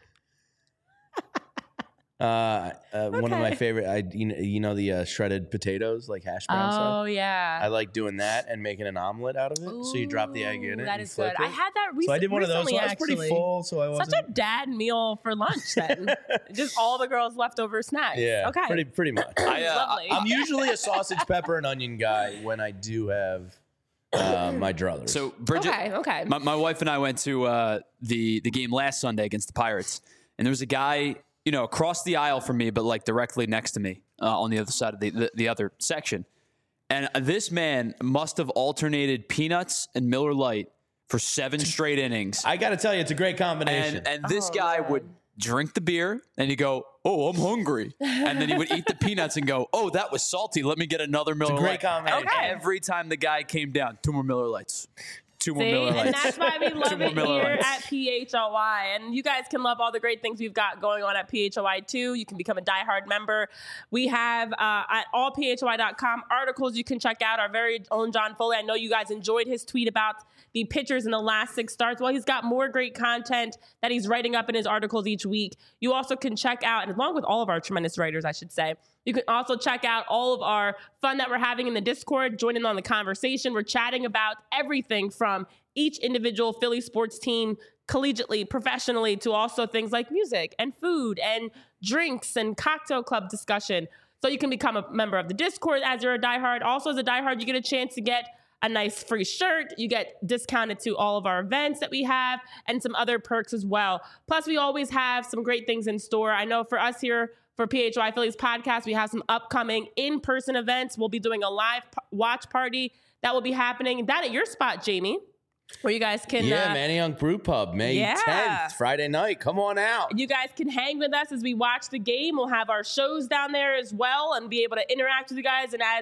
Speaker 2: Uh, uh okay. One of my favorite, I you know, you know the uh, shredded potatoes, like hash brown
Speaker 1: oh,
Speaker 2: stuff.
Speaker 1: Oh yeah,
Speaker 2: I like doing that and making an omelet out of it. Ooh, so you drop the egg in it.
Speaker 1: That
Speaker 2: and
Speaker 1: is
Speaker 2: flip
Speaker 1: good.
Speaker 2: It.
Speaker 1: I had that recently.
Speaker 2: So I did one of those. So I was
Speaker 1: actually.
Speaker 2: pretty full. So I wasn't
Speaker 1: such a dad meal for lunch. Then just all the girls' leftover snacks.
Speaker 2: Yeah,
Speaker 1: okay,
Speaker 2: pretty pretty much. I, uh,
Speaker 1: Lovely.
Speaker 2: I'm usually a sausage, pepper, and onion guy when I do have uh, my druthers.
Speaker 3: So Bridget,
Speaker 1: okay, okay.
Speaker 3: My, my wife and I went to uh, the the game last Sunday against the Pirates, and there was a guy, you know, across the aisle from me, but like directly next to me uh, on the other side of the, the, the other section. And this man must have alternated peanuts and Miller Lite for seven straight innings.
Speaker 2: I got to tell you, it's a great combination.
Speaker 3: And, and this
Speaker 1: oh,
Speaker 3: guy
Speaker 1: man.
Speaker 3: would drink the beer and he'd go, oh, I'm hungry. And then he would eat the peanuts and go, oh, that was salty. Let me get another Miller
Speaker 2: It's a great
Speaker 3: Lite.
Speaker 2: combination.
Speaker 1: Okay.
Speaker 3: Every time the guy came down, two more Miller Lights. Two more
Speaker 1: See?
Speaker 3: Miller Lights.
Speaker 1: And that's why we love it
Speaker 3: Miller
Speaker 1: here
Speaker 3: Lights.
Speaker 1: at P H L Y. And you guys can love all the great things we've got going on at P H L Y too. You can become a diehard member. We have uh, at all P H L Y dot com articles you can check out. Our very own John Foley. I know you guys enjoyed his tweet about the pitchers in the last six starts. Well, he's got more great content that he's writing up in his articles each week. You also can check out, and along with all of our tremendous writers, I should say, you can also check out all of our fun that we're having in the Discord. Join in on the conversation. We're chatting about everything from each individual Philly sports team collegiately, professionally, to also things like music and food and drinks and cocktail club discussion. So you can become a member of the Discord as you're a diehard. Also, as a diehard, you get a chance to get a nice free shirt. You get discounted to all of our events that we have and some other perks as well. Plus, we always have some great things in store. I know for us here for P H Y Phillies podcast, we have some upcoming in-person events. We'll be doing a live p- watch party that will be happening down at your spot, Jamie, where you guys can...
Speaker 2: Yeah,
Speaker 1: uh,
Speaker 2: Manny Young Brew Pub, May
Speaker 1: yeah.
Speaker 2: tenth, Friday night. Come on out.
Speaker 1: You guys can hang with us as we watch the game. We'll have our shows down there as well and be able to interact with you guys. And as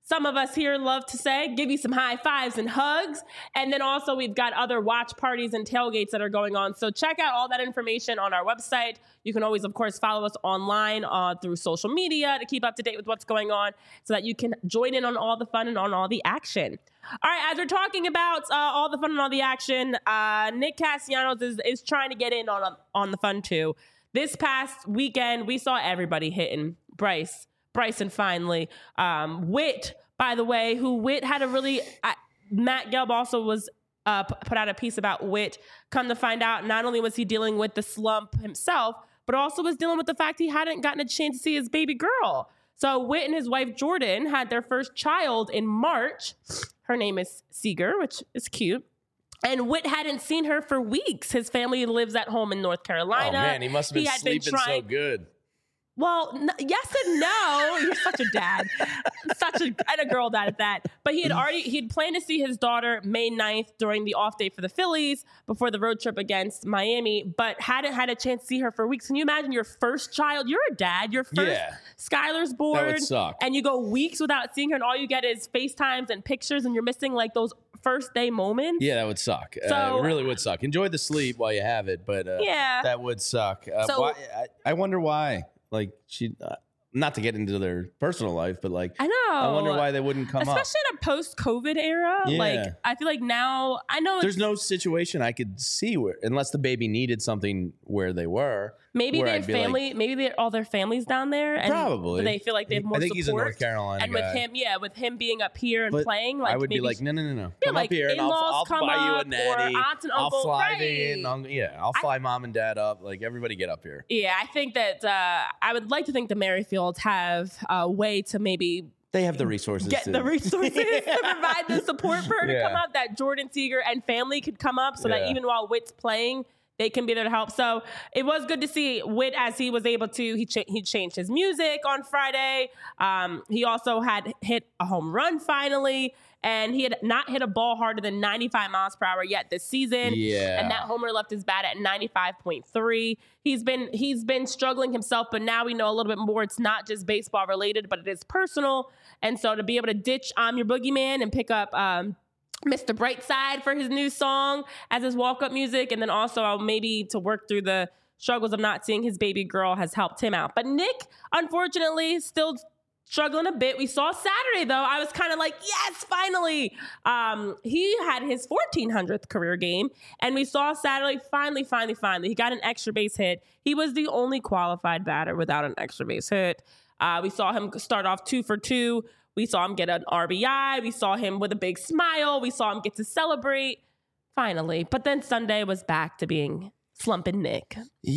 Speaker 1: some of us here love to say, give you some high fives and hugs. And then also we've got other watch parties and tailgates that are going on. So check out all that information on our website. You can always, of course, follow us online uh, through social media to keep up to date with what's going on so that you can join in on all the fun and on all the action. All right, as we're talking about uh, all the fun and all the action, uh, Nick Castellanos is, is trying to get in on, on the fun too. This past weekend, we saw everybody hitting. Bryce, Bryson finally. Um, Witt, by the way, who Witt had a really, uh, Matt Gelb also was uh, p- put out a piece about Witt. Come to find out, not only was he dealing with the slump himself, but also was dealing with the fact he hadn't gotten a chance to see his baby girl. So Witt and his wife Jordan had their first child in March. Her name is Seeger, which is cute. And Witt hadn't seen her for weeks. His family lives at home in North Carolina.
Speaker 2: Oh, man, he must have been
Speaker 1: had
Speaker 2: sleeping
Speaker 1: been trying-
Speaker 2: so good.
Speaker 1: Well, n- yes and no. You're such a dad, such a and a girl dad at that. But he had already he had planned to see his daughter May ninth during the off day for the Phillies before the road trip against Miami, but hadn't had a chance to see her for weeks. Can you imagine your first child? You're a dad. Your first
Speaker 2: Yeah.
Speaker 1: Skylar's born,
Speaker 2: That would suck.
Speaker 1: and you go weeks without seeing her, and all you get is FaceTimes and pictures, and you're missing like those first day moments.
Speaker 2: Yeah, that would suck.
Speaker 1: So-
Speaker 2: uh, it really would suck. Enjoy the sleep while you have it, but uh,
Speaker 1: Yeah.
Speaker 2: that would suck. Uh,
Speaker 1: So-
Speaker 2: why, I, I wonder why. Like she, uh, not to get into their personal life, but like
Speaker 1: I know.
Speaker 2: I wonder why they wouldn't come up.
Speaker 1: Especially in a post-COVID era.
Speaker 2: Yeah.
Speaker 1: Like I feel like now I know it's,
Speaker 2: There's no situation I could see where, unless the baby needed something where they were.
Speaker 1: maybe
Speaker 2: where
Speaker 1: their
Speaker 2: I'd be like-
Speaker 1: family, maybe they all their families down there, and
Speaker 2: Probably.
Speaker 1: they feel like they have more
Speaker 2: I think
Speaker 1: support.
Speaker 2: he's a North Carolina
Speaker 1: and
Speaker 2: guy.
Speaker 1: with him, yeah, with him being up here and
Speaker 2: But
Speaker 1: playing, like
Speaker 2: I would
Speaker 1: maybe
Speaker 2: be like, no, no, no, no.
Speaker 1: Yeah,
Speaker 2: Come
Speaker 1: like
Speaker 2: up here and I'll,
Speaker 1: in-laws
Speaker 2: I'll
Speaker 1: come
Speaker 2: buy you a
Speaker 1: up, or
Speaker 2: nanny.
Speaker 1: aunts and uncle-
Speaker 2: I'll fly
Speaker 1: right.
Speaker 2: the in. I'll- yeah, I'll fly mom and dad up. Like everybody get up here.
Speaker 1: Yeah, I think that uh, I would like to think the Merrifields have a way to maybe
Speaker 2: They have the resources.
Speaker 1: get
Speaker 2: to,
Speaker 1: the resources to provide the support for her to
Speaker 2: Yeah.
Speaker 1: come up, that Jordan Seeger and family could come up so that
Speaker 2: Yeah.
Speaker 1: even while Witt's playing, they can be there to help. So it was good to see Witt as he was able to. He cha- he changed his music on Friday. Um, he also had hit a home run finally, and he had not hit a ball harder than ninety-five miles per hour yet this season.
Speaker 2: Yeah.
Speaker 1: And that homer left his bat at ninety-five point three. He's been he's been struggling himself, but now we know a little bit more. It's not just baseball related, but it is personal. And so to be able to ditch I'm Your Boogeyman and pick up um, Mister Brightside for his new song as his walk-up music, and then also maybe to work through the struggles of not seeing his baby girl has helped him out. But Nick, unfortunately, still struggling a bit. We saw Saturday, though. I was kind of like, yes, finally. Um, he had his fourteen hundredth career game, and we saw Saturday, finally, finally, finally. He got an extra base hit. He was the only qualified batter without an extra base hit. Uh, we saw him start off two for two. We saw him get an R B I. We saw him with a big smile. We saw him get to celebrate, finally. But then Sunday was back to being slumping Nick.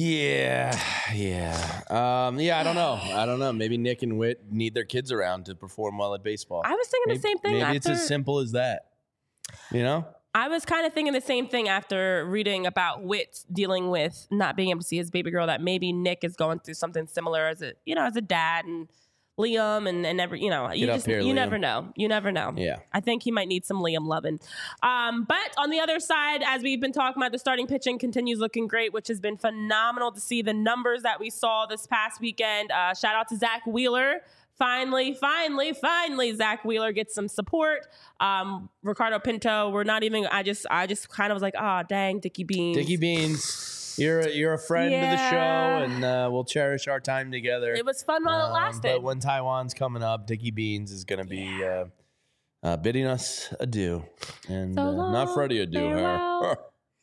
Speaker 2: Yeah, yeah, um, yeah. I don't know. I don't know. Maybe Nick and Witt need their kids around to perform well at baseball.
Speaker 1: I was thinking
Speaker 2: maybe,
Speaker 1: the same thing.
Speaker 2: Maybe
Speaker 1: after,
Speaker 2: it's as simple as that. You know?
Speaker 1: I was kind of thinking the same thing after reading about Witt dealing with not being able to see his baby girl, that maybe Nick is going through something similar as a, you know, as a dad, and Liam and, and every, you know, you
Speaker 2: Get up
Speaker 1: just,
Speaker 2: here,
Speaker 1: you
Speaker 2: Liam.
Speaker 1: never know. You never know.
Speaker 2: Yeah.
Speaker 1: I think he might need some Liam loving. Um, but on the other side, as we've been talking about, the starting pitching continues looking great, which has been phenomenal to see the numbers that we saw this past weekend. Uh, shout out to Zach Wheeler. Finally, finally, finally, Zach Wheeler gets some support. Um, Ricardo Pinto, we're not even, I just, I just kind of was like, ah, oh, dang, Dickie Beans.
Speaker 2: Dickie Beans, you're a, you're a friend
Speaker 1: Yeah.
Speaker 2: of the show, and uh, we'll cherish our time together.
Speaker 1: It was fun while it
Speaker 2: Um,
Speaker 1: lasted.
Speaker 2: But when Taiwan's coming up, Dickie Beans is going to be uh, uh, bidding us adieu. And
Speaker 1: So
Speaker 2: uh, not
Speaker 1: long,
Speaker 2: Freddie adieu.
Speaker 1: farewell.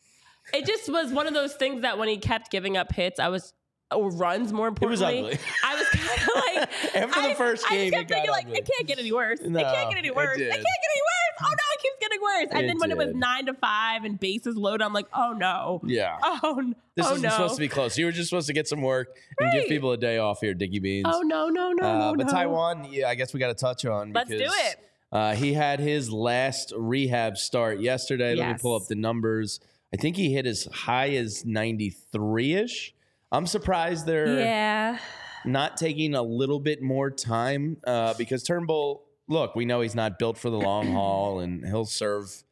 Speaker 1: It just was one of those things that when he kept giving up hits, I was, or runs more
Speaker 2: It was
Speaker 1: importantly,
Speaker 2: ugly.
Speaker 1: I was kind of like,
Speaker 2: After the
Speaker 1: I,
Speaker 2: first
Speaker 1: I
Speaker 2: game,
Speaker 1: kept
Speaker 2: it got
Speaker 1: thinking like,
Speaker 2: ugly.
Speaker 1: it can't get any worse.
Speaker 2: No,
Speaker 1: it can't get any
Speaker 2: it
Speaker 1: worse. It,
Speaker 2: did.
Speaker 1: can't get any worse. Oh no, it keeps getting worse. And
Speaker 2: It
Speaker 1: then when it was
Speaker 2: did.
Speaker 1: nine to five and bases loaded, I'm like, oh no.
Speaker 2: Yeah.
Speaker 1: Oh, n-
Speaker 2: This
Speaker 1: oh
Speaker 2: isn't
Speaker 1: no.
Speaker 2: supposed to be close. You were just supposed to get some work and give
Speaker 1: Right.
Speaker 2: people a day off here, Dickie Beans.
Speaker 1: Oh no, no, no,
Speaker 2: Uh,
Speaker 1: no,
Speaker 2: but
Speaker 1: no.
Speaker 2: Taiwan, yeah, I guess we got to touch on.
Speaker 1: Let's do
Speaker 2: because,
Speaker 1: it.
Speaker 2: Uh, he had his last rehab start yesterday. Let me
Speaker 1: Yes.
Speaker 2: pull up the numbers. I think he hit as high as ninety-three-ish. I'm surprised they're
Speaker 1: Yeah.
Speaker 2: not taking a little bit more time uh, because Turnbull, look, we know he's not built for the long haul, and he'll serve,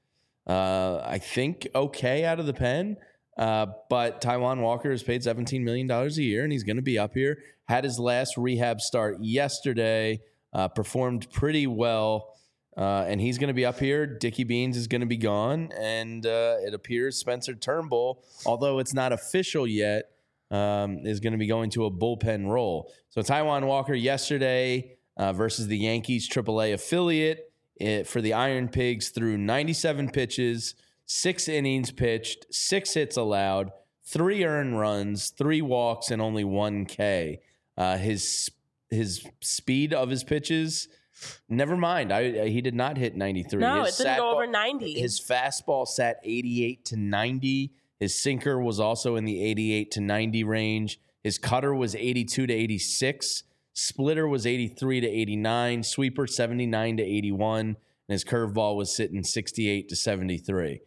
Speaker 2: uh, I think, okay out of the pen. Uh, but Taiwan Walker is paid seventeen million dollars a year, and he's going to be up here. Had his last rehab start yesterday. uh, performed pretty well. Uh, and he's going to be up here. Dickie Beans is going to be gone. And uh, it appears Spencer Turnbull, although it's not official yet, um, is going to be going to a bullpen role. So Taijuan Walker yesterday uh, versus the Yankees triple A affiliate it, for the Iron Pigs threw ninety-seven pitches, six innings pitched, six hits allowed, three earned runs, three walks, and only one K. Uh, his his speed of his pitches... Never mind. I, I he did not hit ninety-three.
Speaker 1: No,
Speaker 2: his
Speaker 1: it didn't go
Speaker 2: ball,
Speaker 1: over ninety.
Speaker 2: His fastball sat eighty-eight to ninety. His sinker was also in the eighty-eight to ninety range. His cutter was eighty-two to eighty-six. Splitter was eighty-three to eighty-nine. Sweeper seventy-nine to eighty-one. And his curveball was sitting sixty-eight to seventy-three.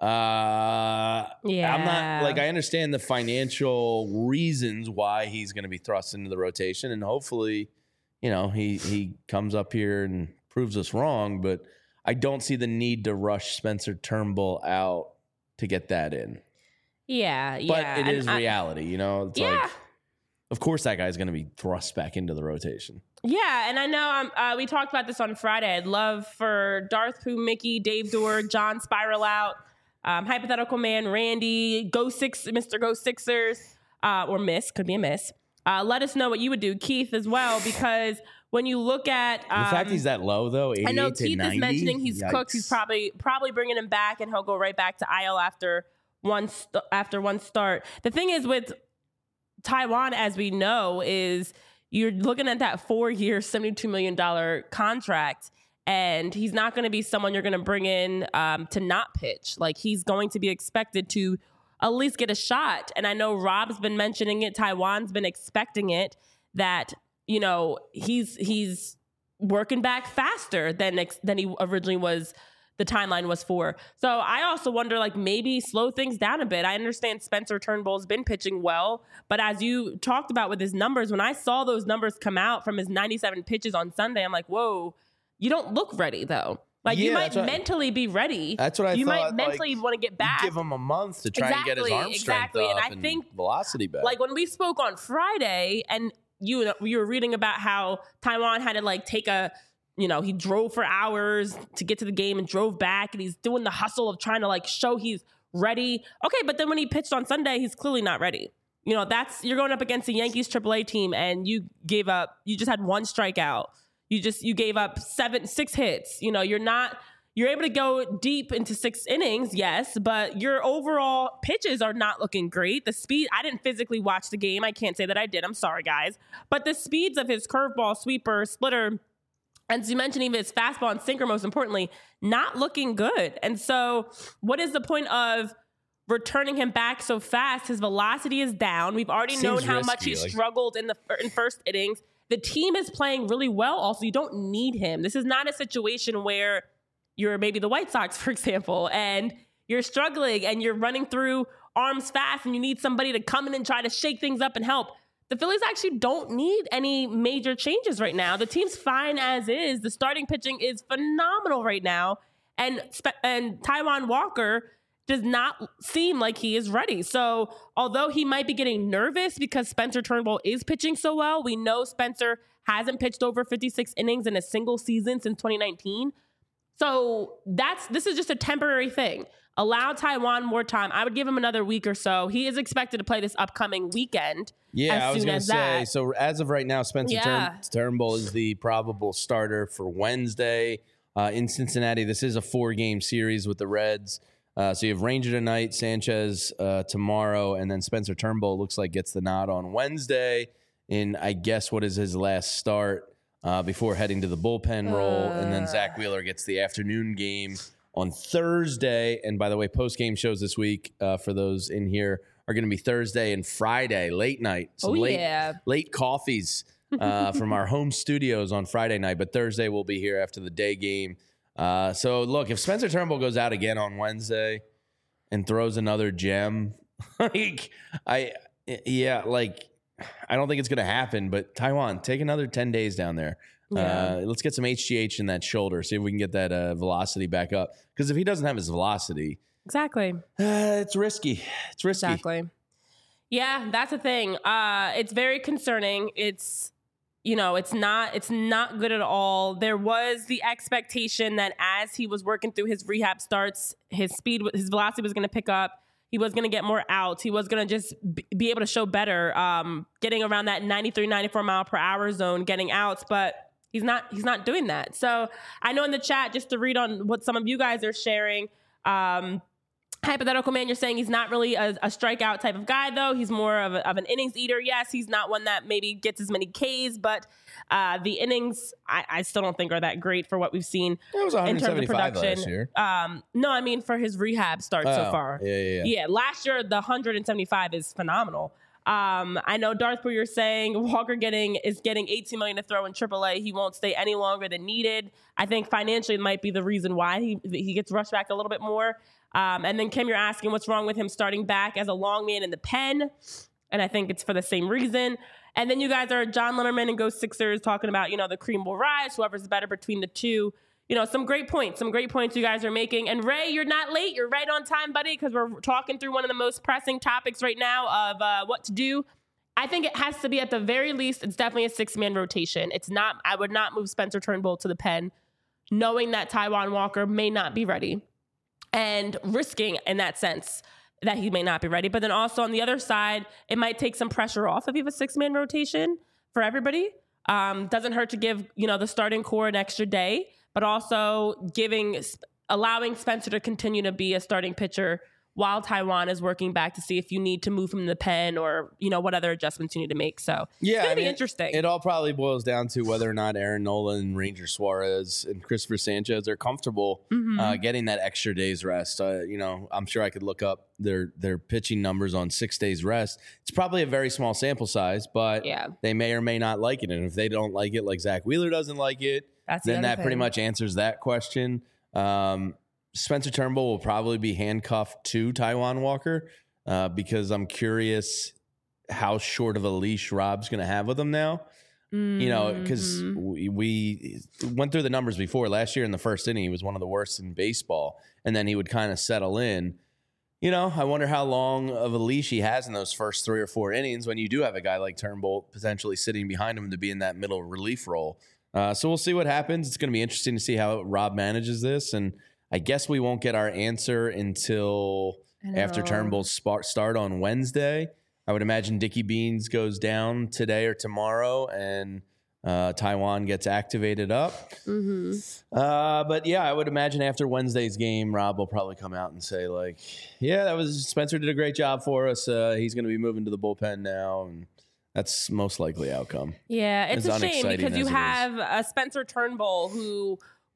Speaker 2: Uh,
Speaker 1: yeah.
Speaker 2: I'm not like I understand the financial reasons why he's going to be thrust into the rotation, and hopefully, you know, he he comes up here and proves us wrong, but I don't see the need to rush Spencer Turnbull out to get that in.
Speaker 1: Yeah,
Speaker 2: but
Speaker 1: yeah.
Speaker 2: it
Speaker 1: and
Speaker 2: is
Speaker 1: I,
Speaker 2: reality, you know. It's
Speaker 1: yeah.
Speaker 2: like, of course, that guy's going to be thrust back into the rotation.
Speaker 1: Yeah, and I know um, uh, we talked about this on Friday. I'd love for Darth Pooh, Mickey, Dave Dorr, John Spiral out, um, Hypothetical Man, Randy, Go Six, Mister Go Sixers, uh, or Miss, could be a Miss. Uh, let us know what you would do, Keith, as well, because when you look at um,
Speaker 2: the fact he's that low, though, eighty-eight
Speaker 1: I know
Speaker 2: to
Speaker 1: Keith
Speaker 2: ninety,
Speaker 1: is mentioning he's
Speaker 2: yikes.
Speaker 1: cooked. He's probably probably bringing him back, and he'll go right back to I L after one st- after one start. The thing is with Taijuan, as we know, is you're looking at that four-year, seventy-two million dollars contract, and he's not going to be someone you're going to bring in um, to not pitch. Like, he's going to be expected to at least get a shot. And I know Rob's been mentioning it. Taijuan's been expecting it, that, you know, he's he's working back faster than ex- than he originally was, the timeline was for. So I also wonder, like, maybe slow things down a bit. I understand Spencer Turnbull's been pitching well, but as you talked about with his numbers, when I saw those numbers come out from his ninety-seven pitches on Sunday, I'm like, whoa, you don't look ready, though. Like,
Speaker 2: Yeah,
Speaker 1: you might
Speaker 2: that's what-
Speaker 1: mentally be ready.
Speaker 2: That's what I
Speaker 1: you
Speaker 2: thought.
Speaker 1: might mentally
Speaker 2: like,
Speaker 1: want to get back.
Speaker 2: Give him a month to try and get his
Speaker 1: Exactly,
Speaker 2: arm strength
Speaker 1: exactly.
Speaker 2: up
Speaker 1: And I
Speaker 2: and
Speaker 1: think,
Speaker 2: velocity back.
Speaker 1: Like, when we spoke on Friday, and you you were reading about how Taijuan had to, like, take a, you know, he drove for hours to get to the game and drove back, and he's doing the hustle of trying to, like, show he's ready. Okay, but then when he pitched on Sunday, he's clearly not ready. You know, that's, you're going up against the Yankees triple A team, and you gave up, you just had one strikeout. You just, you gave up seven, six hits. You know, you're not, you're able to go deep into six innings, yes, but your overall pitches are not looking great. The speed, I didn't physically watch the game. I can't say that I did. I'm sorry, guys. But the speeds of his curveball, sweeper, splitter, and as you mentioned, even his fastball and sinker, most importantly, not looking good. And so what is the point of returning him back so fast? His velocity is down. We've already
Speaker 2: Seems
Speaker 1: known how
Speaker 2: risky,
Speaker 1: much he
Speaker 2: like-
Speaker 1: struggled in the in first innings. The team is playing really well also. You don't need him. This is not a situation where you're maybe the White Sox, for example, and you're struggling and you're running through arms fast and you need somebody to come in and try to shake things up and help. The Phillies actually don't need any major changes right now. The team's fine as is. The starting pitching is phenomenal right now. And, and Taijuan Walker does not seem like he is ready. So although he might be getting nervous because Spencer Turnbull is pitching so well, we know Spencer hasn't pitched over fifty-six innings in a single season since twenty nineteen. So that's this is just a temporary thing. Allow Taijuan more time. I would give him another week or so. He is expected to play this upcoming weekend.
Speaker 2: Yeah,
Speaker 1: as
Speaker 2: I was
Speaker 1: soon
Speaker 2: going to
Speaker 1: as
Speaker 2: say,
Speaker 1: that.
Speaker 2: so as of right now, Spencer
Speaker 1: Yeah.
Speaker 2: Turn- Turnbull is the probable starter for Wednesday uh, in Cincinnati. This is a four-game series with the Reds. Uh, so you have Ranger tonight, Sanchez uh, tomorrow, and then Spencer Turnbull looks like gets the nod on Wednesday in, I guess, what is his last start uh, before heading to the bullpen role. And then Zach Wheeler gets the afternoon game on Thursday. And by the way, post-game shows this week uh, for those in here are going to be Thursday and Friday, late night. Some
Speaker 1: Oh,
Speaker 2: late,
Speaker 1: yeah.
Speaker 2: late coffees uh, from our home studios on Friday night. But Thursday we'll be here after the day game. Uh, so, look, if Spencer Turnbull goes out again on Wednesday and throws another gem, like, I, yeah, like, I don't think it's going to happen. But Taijuan, take another ten days down there.
Speaker 1: Yeah.
Speaker 2: Uh, let's get some H G H in that shoulder, see if we can get that uh, velocity back up. Because if he doesn't have his velocity,
Speaker 1: Exactly.
Speaker 2: uh, it's risky. It's risky.
Speaker 1: Exactly. Yeah, that's the thing. Uh, it's very concerning. It's you know, it's not it's not good at all. There was the expectation that as he was working through his rehab starts, his speed, his velocity was going to pick up. He was going to get more outs. He was going to just be able to show better, um, getting around that ninety-three, ninety-four mile per hour zone, getting outs. But he's not he's not doing that. So I know in the chat, just to read on what some of you guys are sharing, um, Hypothetical Man, you're saying he's not really a, a strikeout type of guy, though. He's more of, a, of an innings eater. Yes, he's not one that maybe gets as many Ks, but uh, the innings, I, I still don't think are that great for what we've seen
Speaker 2: It was
Speaker 1: in terms of production.
Speaker 2: last year.
Speaker 1: Um, no, I mean for his rehab start
Speaker 2: Oh,
Speaker 1: so far.
Speaker 2: yeah, yeah, yeah.
Speaker 1: Yeah, last year, the one seventy-five is phenomenal. Um, I know Darth Brewer, you're saying Walker getting is getting eighteen million dollars to throw in triple A. He won't stay any longer than needed. I think financially it might be the reason why he he gets rushed back a little bit more. Um, and then Kim, you're asking what's wrong with him starting back as a long man in the pen. And I think it's for the same reason. And then you guys are John Lemmerman and Go Sixers talking about, you know, the cream will rise, whoever's better between the two. You know, some great points, some great points you guys are making. And Ray, you're not late. You're right on time, buddy, because we're talking through one of the most pressing topics right now of uh, what to do. I think it has to be, at the very least, it's definitely a six-man rotation. It's not, I would not move Spencer Turnbull to the pen, knowing that Taijuan Walker may not be ready. And risking in that sense that he may not be ready. But then also on the other side, it might take some pressure off if you have a six-man rotation for everybody. Um, doesn't hurt to give, you know, the starting core an extra day, but also giving, allowing Spencer to continue to be a starting pitcher while Taijuan is working back to see if you need to move him in the pen or, you know, what other adjustments you need to make. So
Speaker 2: Yeah,
Speaker 1: it's going to
Speaker 2: I
Speaker 1: be
Speaker 2: mean,
Speaker 1: interesting.
Speaker 2: It all probably boils down to whether or not Aaron Nola, Ranger Suarez, and Christopher Sanchez are comfortable
Speaker 1: Mm-hmm.
Speaker 2: uh, getting that extra day's rest. Uh, you know, I'm sure I could look up their their pitching numbers on six days rest. It's probably a very small sample size, but
Speaker 1: Yeah.
Speaker 2: they may or may not like it. And if they don't like it, like Zach Wheeler doesn't like it,
Speaker 1: That's the
Speaker 2: then
Speaker 1: other
Speaker 2: that pretty
Speaker 1: thing.
Speaker 2: much answers that question. Um, Spencer Turnbull will probably be handcuffed to Taijuan Walker uh, because I'm curious how short of a leash Rob's going to have with him now. You know, because
Speaker 1: Mhm.
Speaker 2: we, we went through the numbers before. Last year in the first inning, he was one of the worst in baseball, and then he would kind of settle in. You know, I wonder how long of a leash he has in those first three or four innings when you do have a guy like Turnbull potentially sitting behind him to be in that middle relief role. Uh, so we'll see what happens. It's going to be interesting to see how Rob manages this, and I guess we won't get our answer until
Speaker 1: I
Speaker 2: after
Speaker 1: know.
Speaker 2: Turnbull's spa- start on Wednesday. I would imagine Dickie Beans goes down today or tomorrow, and uh, Taijuan gets activated up.
Speaker 1: Mm-hmm.
Speaker 2: Uh, but yeah, I would imagine after Wednesday's game, Rob will probably come out and say like, "Yeah, that was Spencer did a great job for us. Uh, he's going to be moving to the bullpen now." And that's most likely outcome.
Speaker 1: Yeah, it's
Speaker 2: As
Speaker 1: a shame
Speaker 2: unexciting
Speaker 1: because you
Speaker 2: as it is.
Speaker 1: have a Spencer Turnbull who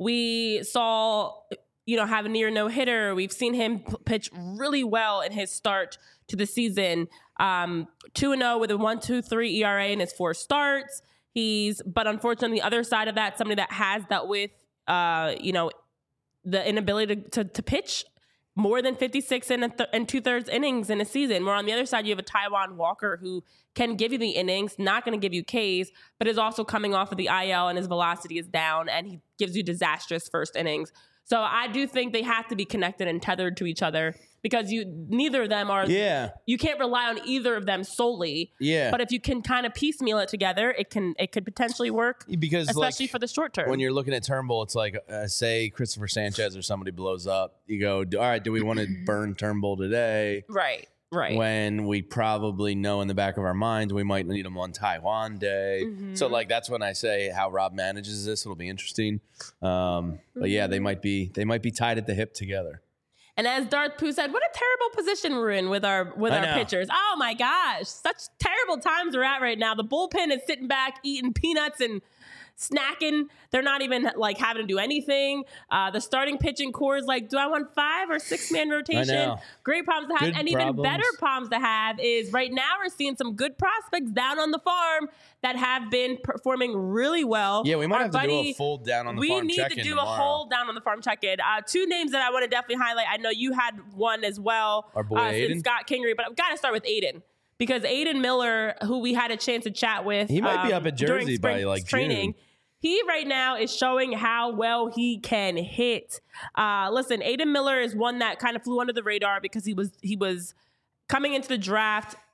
Speaker 1: we saw, you know, have a near no hitter. We've seen him p- pitch really well in his start to the season. Um, two and zero with a one two three E R A in his four starts. He's, but unfortunately, the other side of that, somebody that has dealt with, uh, you know, the inability to, to, to pitch more than fifty-six and, a th- and two thirds innings in a season. Where on the other side, you have a Taijuan Walker who can give you the innings, not going to give you Ks, but is also coming off of the I L and his velocity is down and he gives you disastrous first innings. So I do think they have to be connected and tethered to each other because you neither of them are.
Speaker 2: Yeah,
Speaker 1: You can't rely on either of them solely.
Speaker 2: yeah.
Speaker 1: But if you can kind of piecemeal it together, it can it could potentially work,
Speaker 2: because
Speaker 1: especially
Speaker 2: like,
Speaker 1: for the short term.
Speaker 2: when you're looking at Turnbull, it's like, uh, say Christopher Sanchez or somebody blows up. You go, all right, do we want to burn Turnbull today?
Speaker 1: right, right.
Speaker 2: When we probably know in the back of our minds we might need him on Taijuan Day.
Speaker 1: Mhm.
Speaker 2: So like that's when I say how Rob manages this. It'll be interesting. Um, but yeah, they might be they might be tied at the hip together.
Speaker 1: And as Darth Pooh said, what a terrible position we're in with our with
Speaker 2: I
Speaker 1: our
Speaker 2: know.
Speaker 1: pitchers. Oh my gosh, such terrible times we're at right now. The bullpen is sitting back eating peanuts and snacking. They're not even like having to do anything. Uh, the starting pitching core is like, do I want five or six man rotation?
Speaker 2: know.
Speaker 1: Great problems to have.
Speaker 2: Good
Speaker 1: and even
Speaker 2: problems.
Speaker 1: better problems to have is right now we're seeing some good prospects down on the farm that have been performing really well.
Speaker 2: Yeah, we might
Speaker 1: Our
Speaker 2: have to do
Speaker 1: buddy-
Speaker 2: a full down on the
Speaker 1: we
Speaker 2: farm
Speaker 1: need
Speaker 2: check-in
Speaker 1: to do
Speaker 2: tomorrow.
Speaker 1: a whole down on the farm check-in. Uh, two names that I want to definitely highlight. I know you had one as well.
Speaker 2: Our boy
Speaker 1: uh,
Speaker 2: Aiden?
Speaker 1: since Scott Kingery, but I've got to start with Aiden because Aiden Miller, who we had a chance to chat with,
Speaker 2: He might be
Speaker 1: um,
Speaker 2: up at
Speaker 1: during
Speaker 2: Jersey by,
Speaker 1: spring
Speaker 2: like,
Speaker 1: training.
Speaker 2: June.
Speaker 1: He right now is showing how well he can hit. Uh, listen, Aiden Miller is one that kind of flew under the radar because he was he was coming into the draft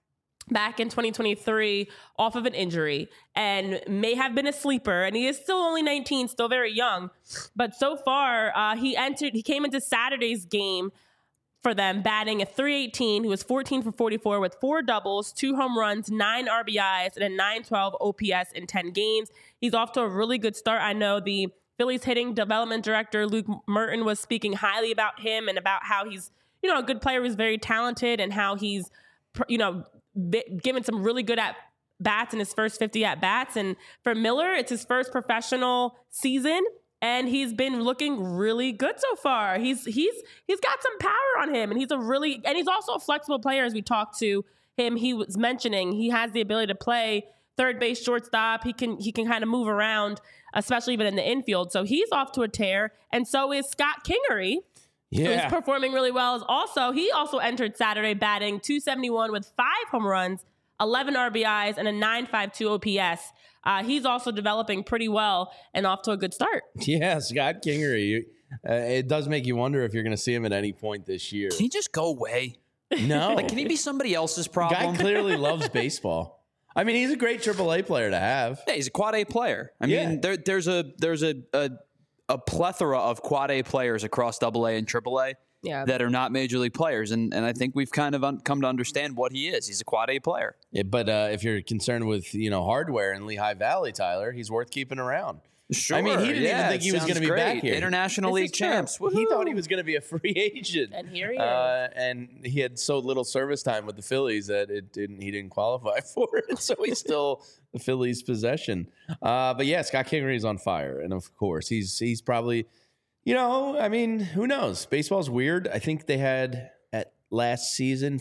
Speaker 1: back in twenty twenty-three off of an injury and may have been a sleeper. And he is still only nineteen, still very young. But so far, uh, he entered, he came into Saturday's game for them batting at three eighteen. He was fourteen for forty-four with four doubles, two home runs, nine R B Is, and a nine twelve O P S in ten games. He's off to a really good start. I know the Phillies hitting development director Luke Merton was speaking highly about him and about how he's, you know, a good player who's very talented and how he's, you know, given some really good at bats in his first fifty at bats. And for Miller, it's his first professional season, and he's been looking really good so far. He's he's he's got some power on him, and he's a really and he's also a flexible player. As we talked to him, he was mentioning he has the ability to play third base, shortstop. He can he can kind of move around, especially even in the infield. So he's off to a tear, and so is Scott Kingery.
Speaker 2: Yeah.
Speaker 1: Who's performing really well. Is also he also entered Saturday batting two seventy-one with five home runs, eleven R B Is, and a nine fifty-two O P S. Uh, he's also developing pretty well and off to a good start.
Speaker 2: Yeah, Scott Kingery. Uh, it does make you wonder if you're going to see him at any point this year.
Speaker 3: Can he just go away?
Speaker 2: No.
Speaker 3: Like, can he be somebody else's
Speaker 2: The
Speaker 3: problem?
Speaker 2: guy clearly loves baseball. I mean, he's a great triple A player to have.
Speaker 3: Yeah, he's a quad A player. I
Speaker 2: Yeah.
Speaker 3: mean, there, there's a there's a, a a plethora of quad A players across double A and triple A
Speaker 1: Yeah.
Speaker 3: that are not major league players. And and I think we've kind of un- come to understand what he is. He's a quad A player.
Speaker 2: Yeah, but uh, if you're concerned with, you know, hardware in Lehigh Valley, Tyler, he's worth keeping around.
Speaker 3: Sure.
Speaker 2: I mean, he didn't
Speaker 3: yeah,
Speaker 2: even think he was
Speaker 3: sounds
Speaker 2: going to be
Speaker 3: great.
Speaker 2: back here.
Speaker 3: International
Speaker 1: This
Speaker 3: League
Speaker 1: is true.
Speaker 3: champs.
Speaker 2: He
Speaker 3: Woohoo.
Speaker 2: thought he was going to be a free agent.
Speaker 1: And here he is.
Speaker 2: Uh, and he had so little service time with the Phillies that it didn't. He didn't qualify for it, so he's still the Phillies' possession. Uh, but yeah, Scott Kingery's on fire, and of course, he's he's probably, you know, I mean, who knows? Baseball's weird. I think they had at last season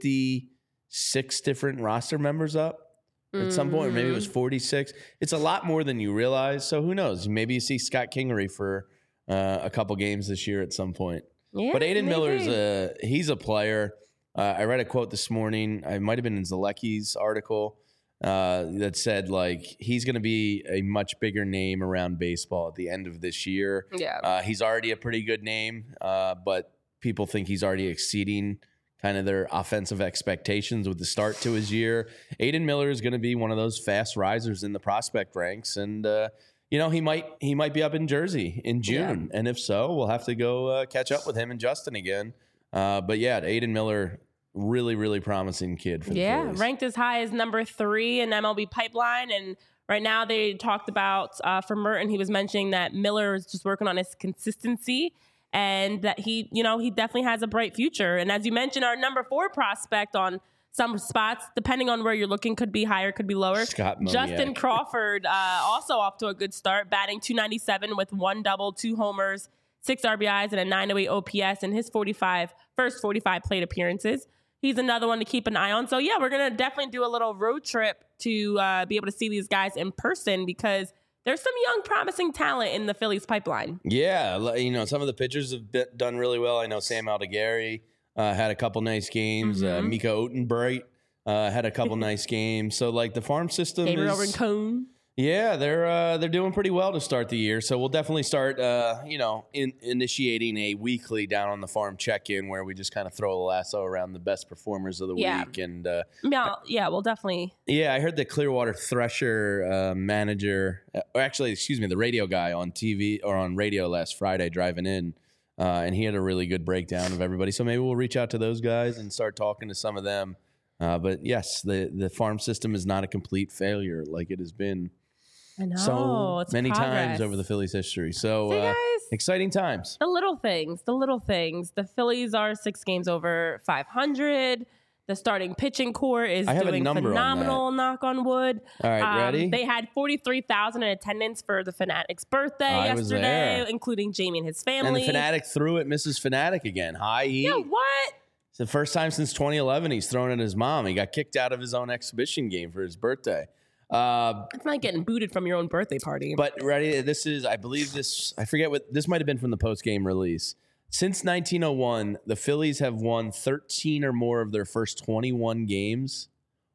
Speaker 2: fifty-six different roster members up. At some point, or maybe it was forty-six. It's a lot more than you realize. So who knows? Maybe you see Scott Kingery for uh, a couple games this year at some point.
Speaker 1: Yeah,
Speaker 2: But Aiden
Speaker 1: maybe.
Speaker 2: Miller's a he's a player. Uh, I read a quote this morning. I might have been in Zalecki's article uh, that said like he's going to be a much bigger name around baseball at the end of this year.
Speaker 1: Yeah.
Speaker 2: Uh, he's already a pretty good name, uh, but people think he's already exceeding kind of their offensive expectations with the start to his year. Aiden Miller is going to be one of those fast risers in the prospect ranks, and uh, you know he might he might be up in Jersey in June, and if so, we'll have to go uh, catch up with him and Justin again. Uh, but yeah, Aiden Miller, really really promising kid for the
Speaker 1: Yeah,
Speaker 2: Phillies.
Speaker 1: ranked as high as number three in M L B pipeline. And right now they talked about, uh, for Merton, he was mentioning that Miller is just working on his consistency and that he, you know, he definitely has a bright future. And as you mentioned, our number four prospect on some spots, depending on where you're looking, could be higher, could be lower.
Speaker 2: Scott Moniak.
Speaker 1: Justin Crawford, uh, also off to a good start, batting two ninety-seven with one double, two homers, six R B Is, and a nine oh eight O P S in his forty-five first forty-five plate appearances. He's another one to keep an eye on. So, yeah, we're going to definitely do a little road trip to uh, be able to see these guys in person because there's some young, promising talent in the Phillies pipeline.
Speaker 2: Yeah, l- you know, some of the pitchers have been, done really well. I know Sam Aldegari uh, had a couple nice games. Uh,
Speaker 1: Mhm.
Speaker 2: Mika Otenbright uh, had a couple nice games. So, like, the farm system
Speaker 1: Gabriel
Speaker 2: is...
Speaker 1: Rincon.
Speaker 2: Yeah, they're uh, they're doing pretty well to start the year. So we'll definitely start, uh, you know, in, initiating a weekly down on the farm check-in where we just kind of throw a lasso around the best performers of the
Speaker 1: Yeah.
Speaker 2: week. And uh,
Speaker 1: Yeah, yeah, we'll definitely.
Speaker 2: yeah, I heard the Clearwater Thresher uh, manager, uh, or actually, excuse me, the radio guy on T V or on radio last Friday driving in, uh, and he had a really good breakdown of everybody. So maybe we'll reach out to those guys and start talking to some of them. Uh, but yes, the the farm system is not a complete failure like it has been
Speaker 1: I know.
Speaker 2: so
Speaker 1: it's
Speaker 2: many
Speaker 1: progress.
Speaker 2: times over the Phillies' history. So
Speaker 1: See,
Speaker 2: uh,
Speaker 1: guys?
Speaker 2: exciting times.
Speaker 1: The little things, the little things. The Phillies are six games over five hundred. The starting pitching core is
Speaker 2: I have a
Speaker 1: doing
Speaker 2: number on
Speaker 1: phenomenal, knock on wood.
Speaker 2: All right,
Speaker 1: Um,
Speaker 2: ready?
Speaker 1: They had forty-three thousand in attendance for the Fanatic's birthday
Speaker 2: I was
Speaker 1: yesterday,
Speaker 2: there.
Speaker 1: including Jamie and his
Speaker 2: And
Speaker 1: family.
Speaker 2: the Fanatic threw at Missus Fanatic again. High heat.
Speaker 1: Yeah, what?
Speaker 2: It's the first time since twenty eleven he's thrown at his mom. He got kicked out of his own exhibition game for his birthday. Uh,
Speaker 1: It's not getting booted from your own birthday party.
Speaker 2: but ready, this is, I believe this, I forget what, this might have been from the post-game release. Since nineteen oh one, the Phillies have won thirteen or more of their first twenty-one games,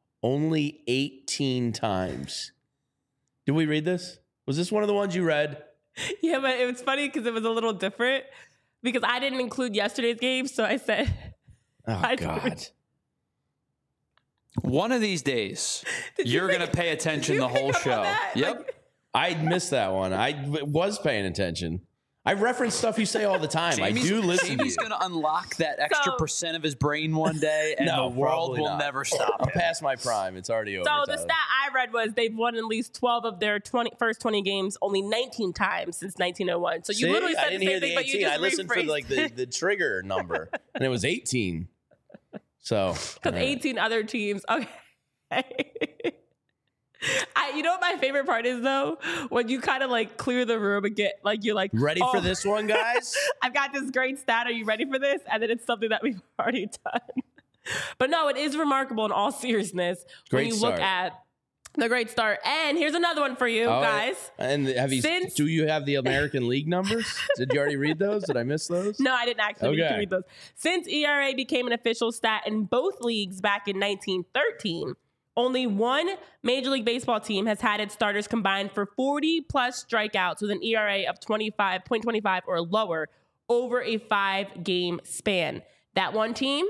Speaker 2: only eighteen times. Did we read this? Was this one of the ones you read?
Speaker 1: Yeah, but it was funny because it was a little different because I didn't include yesterday's game. So I said,
Speaker 2: Oh,
Speaker 1: I-
Speaker 2: God.
Speaker 3: One of these days, you're going to pay attention the whole show. Yep.
Speaker 1: Like,
Speaker 2: I missed that one. I w- was paying attention. I reference stuff you say all the time.
Speaker 3: Jamie's,
Speaker 2: I do listen
Speaker 3: Jamie's
Speaker 2: to you.
Speaker 3: going to unlock that extra
Speaker 1: So-
Speaker 3: percent of his brain one day, and
Speaker 2: No,
Speaker 3: the world
Speaker 2: probably
Speaker 3: will
Speaker 2: not.
Speaker 3: never stop
Speaker 2: I'm
Speaker 3: him.
Speaker 2: past my prime. It's already over.
Speaker 1: So the
Speaker 2: Tyler.
Speaker 1: stat I read was they've won at least twelve of their twenty, first twenty games only nineteen times since nineteen oh one. So you
Speaker 2: See?
Speaker 1: literally said
Speaker 2: I didn't
Speaker 1: the
Speaker 2: hear
Speaker 1: same
Speaker 2: the
Speaker 1: thing, but you
Speaker 2: eighteen.
Speaker 1: just
Speaker 2: I listened for
Speaker 1: rephrased
Speaker 2: like the, the trigger number, and it was eighteen. So
Speaker 1: because eighteen other teams. Okay. I, you know what my favorite part is though? When you kind of like clear the room and get like you're like
Speaker 2: ready
Speaker 1: oh,
Speaker 2: for this one, guys?
Speaker 1: I've got this great stat. Are you ready for this? And then it's something that we've already done. But no, it is remarkable in all seriousness when
Speaker 2: Great
Speaker 1: you
Speaker 2: start.
Speaker 1: look at the great start. And here's another one for you
Speaker 2: Oh,
Speaker 1: guys.
Speaker 2: And have you?
Speaker 1: Since-
Speaker 2: do you have the American League numbers? Did you already read those? Did I miss those?
Speaker 1: No, I didn't actually need
Speaker 2: Okay.
Speaker 1: to read those. Since E R A became an official stat in both leagues back in nineteen thirteen, only one Major League Baseball team has had its starters combined for forty plus strikeouts with an E R A of twenty-five point two five or lower over a five game span. That one team,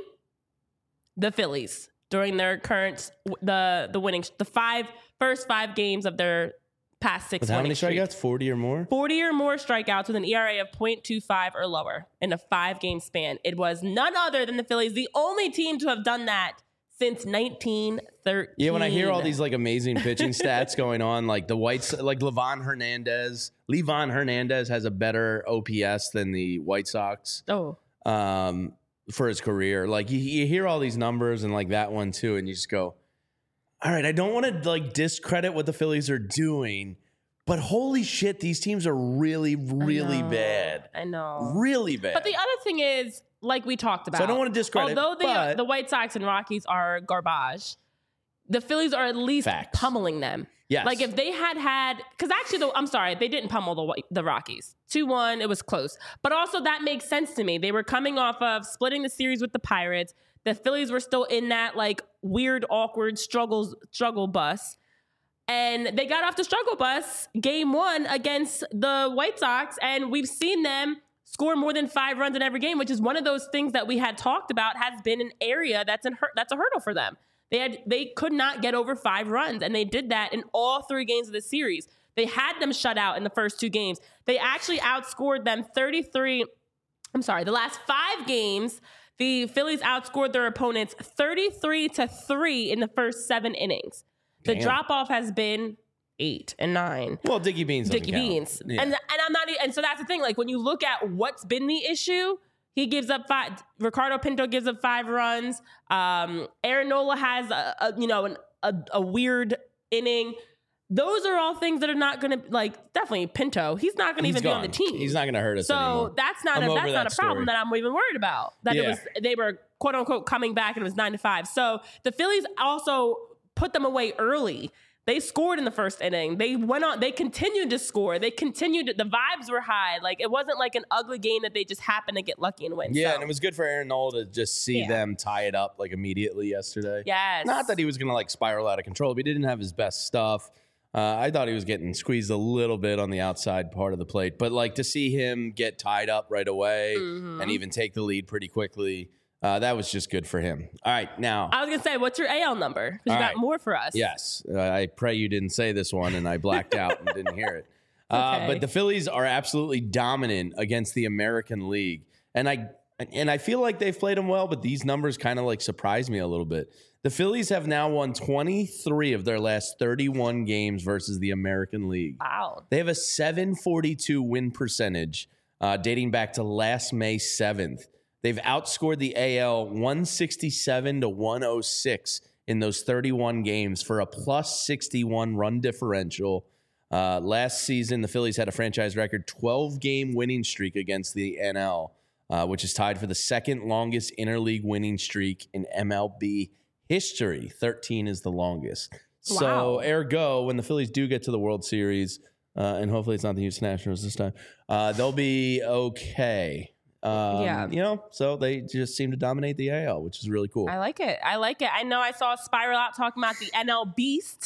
Speaker 1: the Phillies, during their current the the winning the five first five games of their past six.
Speaker 2: With how many
Speaker 1: winning streak.
Speaker 2: strikeouts? Forty or more?
Speaker 1: forty or more strikeouts with an E R A of point two five or lower in a five game span. It was none other than the Phillies, the only team to have done that since nineteen thirteen.
Speaker 2: Yeah, when I hear all these like amazing pitching stats going on, like the Whites, like Levon Hernandez, Levon Hernandez has a better O P S than the White Sox
Speaker 1: Oh,
Speaker 2: um, for his career. Like you, you hear all these numbers and like that one too, and you just go, all right, I don't want to like discredit what the Phillies are doing, but holy shit, these teams are really, really
Speaker 1: I know.
Speaker 2: bad.
Speaker 1: I know.
Speaker 2: Really bad.
Speaker 1: But the other thing is, like we talked about,
Speaker 2: So I don't want to discredit,
Speaker 1: although the,
Speaker 2: but-
Speaker 1: the White Sox and Rockies are garbage, the Phillies are at least
Speaker 2: Facts.
Speaker 1: pummeling them.
Speaker 2: Yes.
Speaker 1: Like if they had had, because actually, the, I'm sorry, they didn't pummel the White- the Rockies. two one, it was close. But also that makes sense to me. They were coming off of splitting the series with the Pirates. The Phillies were still in that like weird, awkward struggles struggle bus. And they got off the struggle bus game one against the White Sox. And we've seen them score more than five runs in every game, which is one of those things that we had talked about has been an area that's an hur- that's a hurdle for them. They had they could not get over five runs, and they did that in all three games of the series. They had them shut out in the first two games. They actually outscored them thirty-three. I'm sorry, the last five games, the Phillies outscored their opponents thirty-three to three in the first seven innings. The
Speaker 2: Damn.
Speaker 1: drop off has been eight and nine.
Speaker 2: well, Dickie Beans. doesn't
Speaker 1: Dickie
Speaker 2: count.
Speaker 1: Beans.
Speaker 2: Yeah.
Speaker 1: And and I'm not e- and so that's the thing. Like when you look at what's been the issue, he gives up five. Ricardo Pinto gives up five runs. Um, Aaron Nola has a, a you know an, a, a weird inning. Those are all things that are not going to like definitely Pinto. He's not going to
Speaker 2: He's
Speaker 1: even be on
Speaker 2: gone.
Speaker 1: the team.
Speaker 2: He's not going to hurt us
Speaker 1: So
Speaker 2: anymore.
Speaker 1: that's not
Speaker 2: I'm
Speaker 1: a
Speaker 2: over
Speaker 1: that's not
Speaker 2: that
Speaker 1: a problem
Speaker 2: story.
Speaker 1: that I'm even worried about. That it
Speaker 2: Yeah.
Speaker 1: was they were quote unquote coming back and it was nine to five. So the Phillies also put them away early. They scored in the first inning. They went on. They continued to score. They continued. To, the vibes were high. Like it wasn't like an ugly game that they just happened to get lucky and win.
Speaker 2: Yeah,
Speaker 1: So,
Speaker 2: and it was good for Aaron Nola to just see
Speaker 1: Yeah.
Speaker 2: them tie it up like immediately yesterday.
Speaker 1: yes.
Speaker 2: Not that he was going to like spiral out of control, but he didn't have his best stuff. Uh, I thought he was getting squeezed a little bit on the outside part of the plate, but like to see him get tied up right away
Speaker 1: Mhm.
Speaker 2: and even take the lead pretty quickly, uh, that was just good for him. All right, now,
Speaker 1: I was gonna say, what's your A L number? Because you
Speaker 2: All
Speaker 1: got
Speaker 2: right.
Speaker 1: more for us.
Speaker 2: yes, uh, I pray you didn't say this one and I blacked out and didn't hear it. Uh,
Speaker 1: Okay.
Speaker 2: But the Phillies are absolutely dominant against the American League, and I and I feel like they've played them well, but these numbers kind of like surprise me a little bit. The Phillies have now won twenty-three of their last thirty-one games versus the American League.
Speaker 1: Wow.
Speaker 2: They have a seven forty-two win percentage uh, dating back to last May seventh. They've outscored the A L one sixty-seven to one oh six in those thirty-one games for a plus sixty-one run differential. Uh, last season, the Phillies had a franchise record twelve-game winning streak against the N L, uh, which is tied for the second longest interleague winning streak in M L B history. thirteen is the longest. So,
Speaker 1: Wow.
Speaker 2: ergo, when the Phillies do get to the World Series, uh, and hopefully it's not the Houston Nationals this time, uh, they'll be okay. Um,
Speaker 1: Yeah.
Speaker 2: You know, so they just seem to dominate the A L, which is really cool.
Speaker 1: I like it. I like it. I know I saw Spiral out talking about the N L Beast.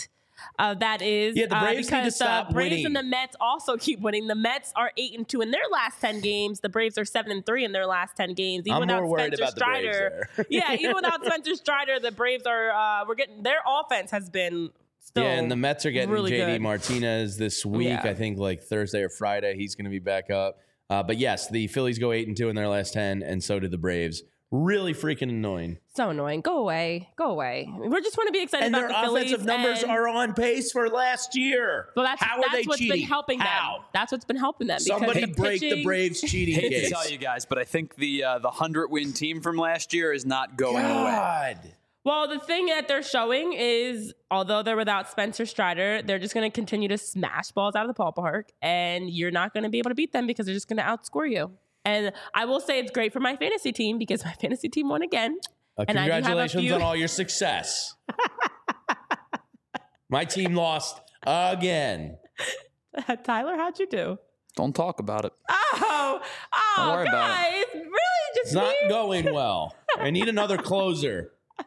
Speaker 1: Uh, that is
Speaker 2: Yeah, the Braves
Speaker 1: uh,
Speaker 2: need to
Speaker 1: because
Speaker 2: stop
Speaker 1: the Braves
Speaker 2: winning.
Speaker 1: and the Mets also keep winning. The Mets are eight and two in their last ten games. The Braves are seven and three in their last ten games. Even
Speaker 2: I'm
Speaker 1: without
Speaker 2: more worried
Speaker 1: Spencer
Speaker 2: about the Braves
Speaker 1: Strider,
Speaker 2: there.
Speaker 1: yeah, even without Spencer Strider, the Braves are uh, we're getting their offense has been still
Speaker 2: Yeah, and the Mets are getting
Speaker 1: really
Speaker 2: J D
Speaker 1: good.
Speaker 2: Martinez this week.
Speaker 1: Yeah.
Speaker 2: I think like Thursday or Friday, he's going to be back up. Uh, but yes, the Phillies go eight and two in their last ten, and so did the Braves. Really freaking annoying.
Speaker 1: So annoying. Go away. Go away. We just want to be excited
Speaker 2: And
Speaker 1: about
Speaker 2: their
Speaker 1: the Phillies.
Speaker 2: offensive numbers
Speaker 1: and-
Speaker 2: are on pace for last year.
Speaker 1: Well, that's,
Speaker 2: How are
Speaker 1: that's
Speaker 2: they
Speaker 1: what's
Speaker 2: cheating?
Speaker 1: been helping
Speaker 2: How?
Speaker 1: them. That's what's been helping them. because
Speaker 2: Somebody
Speaker 1: the
Speaker 2: break the
Speaker 1: pitching-
Speaker 2: Braves cheating
Speaker 3: Hate
Speaker 2: case.
Speaker 3: to tell you guys, but I think the uh, the hundred win team from last year is not going away.
Speaker 2: God.
Speaker 1: Well, the thing that they're showing is, although they're without Spencer Strider, they're just going to continue to smash balls out of the ballpark, and you're not going to be able to beat them because they're just going to outscore you. And I will say it's great for my fantasy team because my fantasy team won again.
Speaker 2: Uh,
Speaker 1: And I do have a
Speaker 2: congratulations
Speaker 1: few-
Speaker 2: on all your success. My team lost again.
Speaker 1: Tyler, how'd you do?
Speaker 3: Don't talk about it.
Speaker 1: Oh, oh,
Speaker 3: Don't worry about
Speaker 1: guys, really? Just
Speaker 2: It's not
Speaker 1: me?
Speaker 2: going well. I need another closer.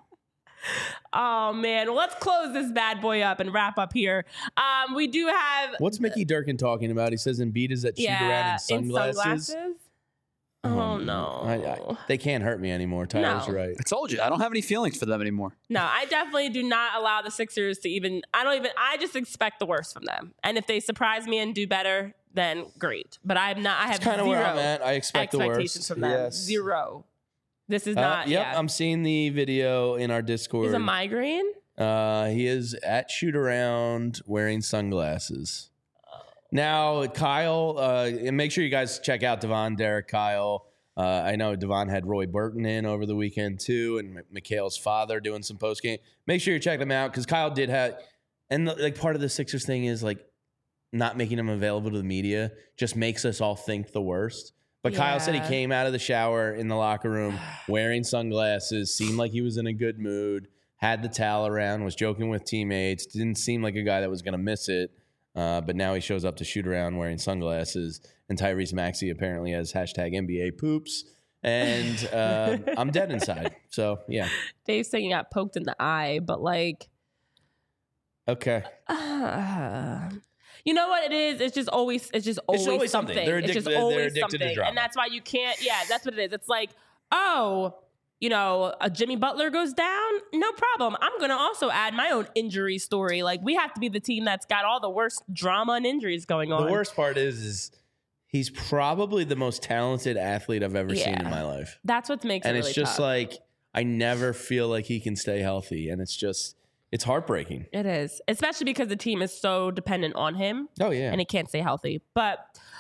Speaker 1: Oh man, well, let's close this bad boy up and wrap up here. Um, we do have
Speaker 2: What's Mickey Durkin talking about? He says Embiid is that shoot around
Speaker 1: yeah
Speaker 2: in sunglasses.
Speaker 1: sunglasses. Oh
Speaker 2: Um,
Speaker 1: no,
Speaker 2: I, I, they can't hurt me anymore. Tyler's
Speaker 1: No.
Speaker 2: right.
Speaker 3: I told you, I don't have any feelings for them anymore.
Speaker 1: no, I definitely do not allow the Sixers to even. I don't even. I just expect the worst from them, and if they surprise me and do better, then great. But I'm not. I have
Speaker 2: Kind of
Speaker 1: zero
Speaker 2: where I'm at. I expect the
Speaker 1: expectations
Speaker 2: worst.
Speaker 1: from them.
Speaker 2: Yes.
Speaker 1: Zero. This is
Speaker 2: Uh,
Speaker 1: not.
Speaker 2: yep,
Speaker 1: yeah.
Speaker 2: I'm seeing the video in our Discord.
Speaker 1: He's a migraine.
Speaker 2: Uh, he is at shoot around wearing sunglasses. Now, Kyle, uh, and make sure you guys check out Devon, Derek, Kyle. Uh, I know Devon had Roy Burton in over the weekend too, and M- Mikhail's father doing some post game. Make sure you check them out because Kyle did have, and the, like part of the Sixers thing is like not making him available to the media just makes us all think the worst. But Kyle said he
Speaker 1: Yeah.
Speaker 2: came out of the shower in the locker room wearing sunglasses, seemed like he was in a good mood, had the towel around, was joking with teammates, didn't seem like a guy that was going to miss it. Uh, but now he shows up to shoot around wearing sunglasses. And Tyrese Maxey apparently has hashtag N B A poops. And uh, I'm dead inside. So, yeah.
Speaker 1: Dave's saying he got poked in the eye, but like,
Speaker 2: Okay.
Speaker 1: uh, you know what it is? It's just always, it's just always,
Speaker 2: always something.
Speaker 1: something.
Speaker 2: They're
Speaker 1: it's just
Speaker 2: addicted- they're
Speaker 1: always
Speaker 2: addicted to
Speaker 1: something,
Speaker 2: drama.
Speaker 1: and that's why you can't. Yeah, that's what it is. It's like, oh, you know, a Jimmy Butler goes down, no problem. I'm gonna also add my own injury story. Like we have to be the team that's got all the worst drama and injuries going on.
Speaker 2: The worst part is, is he's probably the most talented athlete I've ever seen in
Speaker 1: Yeah.
Speaker 2: my life.
Speaker 1: That's what makes
Speaker 2: And
Speaker 1: it
Speaker 2: it's
Speaker 1: really
Speaker 2: just
Speaker 1: tough.
Speaker 2: like, I never feel like he can stay healthy. And it's just, it's heartbreaking.
Speaker 1: It is, especially because the team is so dependent on him
Speaker 2: Oh, yeah.
Speaker 1: and he can't stay healthy. But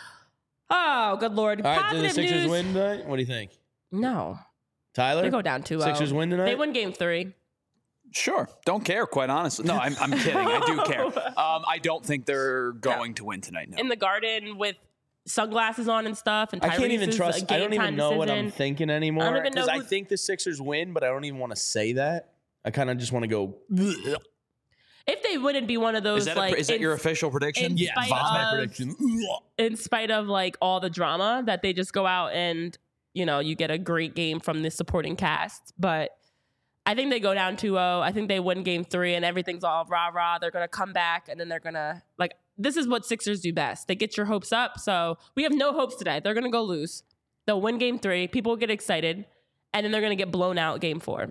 Speaker 1: oh, good lord!
Speaker 2: All right, did the
Speaker 1: Positive
Speaker 2: Sixers
Speaker 1: news.
Speaker 2: win tonight? What do you think?
Speaker 1: No,
Speaker 2: Tyler?
Speaker 1: they go down two.
Speaker 2: Sixers win tonight?
Speaker 1: They win game three.
Speaker 3: Sure, don't care. Quite honestly, no, I'm, I'm kidding. I do care. Um, I don't think they're going to win tonight. No.
Speaker 1: In the garden with sunglasses on and stuff. And
Speaker 2: I can't even
Speaker 1: Tyrese's
Speaker 2: trust.
Speaker 1: a
Speaker 2: I don't
Speaker 1: game
Speaker 2: even
Speaker 1: time
Speaker 2: know what I'm
Speaker 1: decision.
Speaker 2: thinking anymore.
Speaker 1: I don't even know
Speaker 2: Because I
Speaker 1: who-
Speaker 2: think the Sixers win, but I don't even want to say that. I kind of just want to go. "Bleh."
Speaker 1: If they wouldn't be one of those,
Speaker 3: is that,
Speaker 1: like,
Speaker 3: a, is that
Speaker 1: in,
Speaker 3: your official prediction?
Speaker 1: in
Speaker 2: Yeah,
Speaker 1: spite
Speaker 2: that's my
Speaker 1: of-
Speaker 2: prediction.
Speaker 1: in spite of like all the drama, that they just go out and you know you get a great game from the supporting cast. But I think they go down two oh. I think they win game three, and everything's all rah rah. They're gonna come back, and then they're gonna like. This is what Sixers do best. They get your hopes up. So we have no hopes today. They're gonna go lose. They'll win game three. People will get excited, and then they're gonna get blown out game four.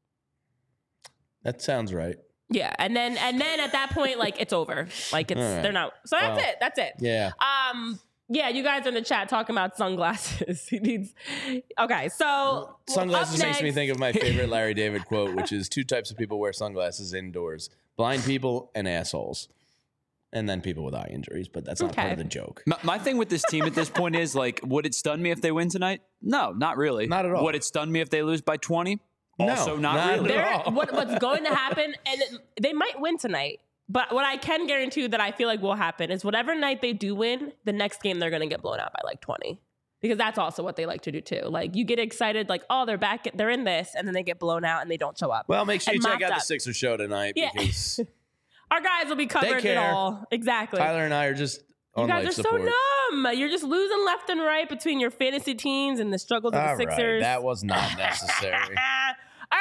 Speaker 2: That sounds right.
Speaker 1: Yeah, and then and then at that point, like it's over. Like it's
Speaker 2: All right.
Speaker 1: they're not. So that's
Speaker 2: Well,
Speaker 1: it. That's it.
Speaker 2: Yeah.
Speaker 1: Um. Yeah, you guys are in the chat talking about sunglasses. He needs. Okay, so
Speaker 2: Sunglasses
Speaker 1: up
Speaker 2: makes me
Speaker 1: next-
Speaker 2: think of my favorite Larry David quote, which is two types of people wear sunglasses indoors: blind people and assholes. And then people with eye injuries, but that's not part
Speaker 1: Okay.
Speaker 2: of the joke.
Speaker 3: My, my thing with this team at this point is like, would it stun me if they win tonight? No, not really.
Speaker 2: Not at all.
Speaker 3: Would it stun me if they lose by twenty?
Speaker 2: No,
Speaker 3: Also, not,
Speaker 2: not
Speaker 3: really.
Speaker 2: at
Speaker 1: They're-
Speaker 2: all.
Speaker 1: what, what's going to happen, and it, they might win tonight. But what I can guarantee you that I feel like will happen is whatever night they do win, the next game they're going to get blown out by like twenty. Because that's also what they like to do too. Like you get excited, like, oh, they're back, they're in this, and then they get blown out and they don't show up.
Speaker 2: Well, make sure you
Speaker 1: And
Speaker 2: check
Speaker 1: mopped
Speaker 2: out the
Speaker 1: up.
Speaker 2: Sixers show tonight
Speaker 1: Yeah.
Speaker 2: because
Speaker 1: Our guys will be covered it
Speaker 2: care.
Speaker 1: all. Exactly.
Speaker 2: Tyler and I are just
Speaker 1: You
Speaker 2: on
Speaker 1: guys
Speaker 2: life
Speaker 1: are
Speaker 2: support.
Speaker 1: so numb. You're just losing left and right between your fantasy teams and the struggles of
Speaker 2: All
Speaker 1: the
Speaker 2: right,
Speaker 1: Sixers.
Speaker 2: that was not necessary.
Speaker 1: All right, well, hopefully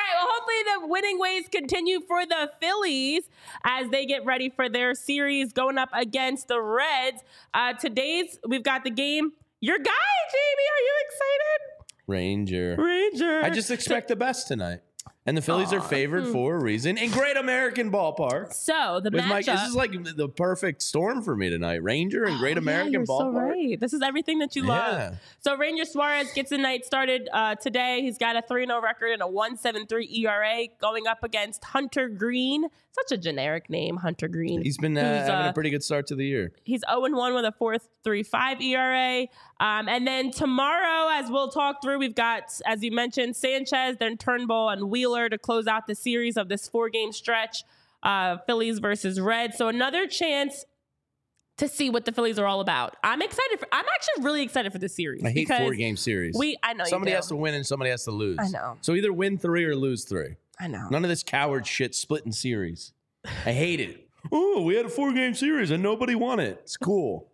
Speaker 1: hopefully the winning ways continue for the Phillies as they get ready for their series going up against the Reds. Uh, today's, we've got the game. Your guy, Jamie, are you excited?
Speaker 2: Ranger.
Speaker 1: Ranger.
Speaker 2: I just expect the best tonight. And the Phillies are favored
Speaker 1: mm.
Speaker 2: for a reason in Great American Ballpark.
Speaker 1: So the
Speaker 2: With my,
Speaker 1: matchup.
Speaker 2: this is like the perfect storm for me tonight. Ranger and Great
Speaker 1: Oh,
Speaker 2: American
Speaker 1: yeah, you're
Speaker 2: Ballpark.
Speaker 1: so right. This is everything that you
Speaker 2: Yeah.
Speaker 1: love. So Ranger Suarez gets the night started uh, today. He's got a three and oh record and a one point seven three E R A going up against Hunter Green. Such a generic name, Hunter Green.
Speaker 2: He's been uh,
Speaker 1: Who's,
Speaker 2: having
Speaker 1: uh,
Speaker 2: a pretty good start to the year.
Speaker 1: He's oh and one with a four point three five E R A. Um, and then tomorrow, as we'll talk through, we've got, as you mentioned, Sanchez, then Turnbull, and Wheeler to close out the series of this four-game stretch, uh, Phillies versus Reds. So another chance to see what the Phillies are all about. I'm excited. For, I'm actually really excited for this series.
Speaker 2: I hate
Speaker 1: because
Speaker 2: four-game series.
Speaker 1: We, I know
Speaker 2: Somebody
Speaker 1: you do.
Speaker 2: has to win and somebody has to lose.
Speaker 1: I know.
Speaker 2: So either win three or lose three.
Speaker 1: I know.
Speaker 2: None of this coward shit splitting series. I hate it. Oh, we had a four-game series and nobody won it. It's cool.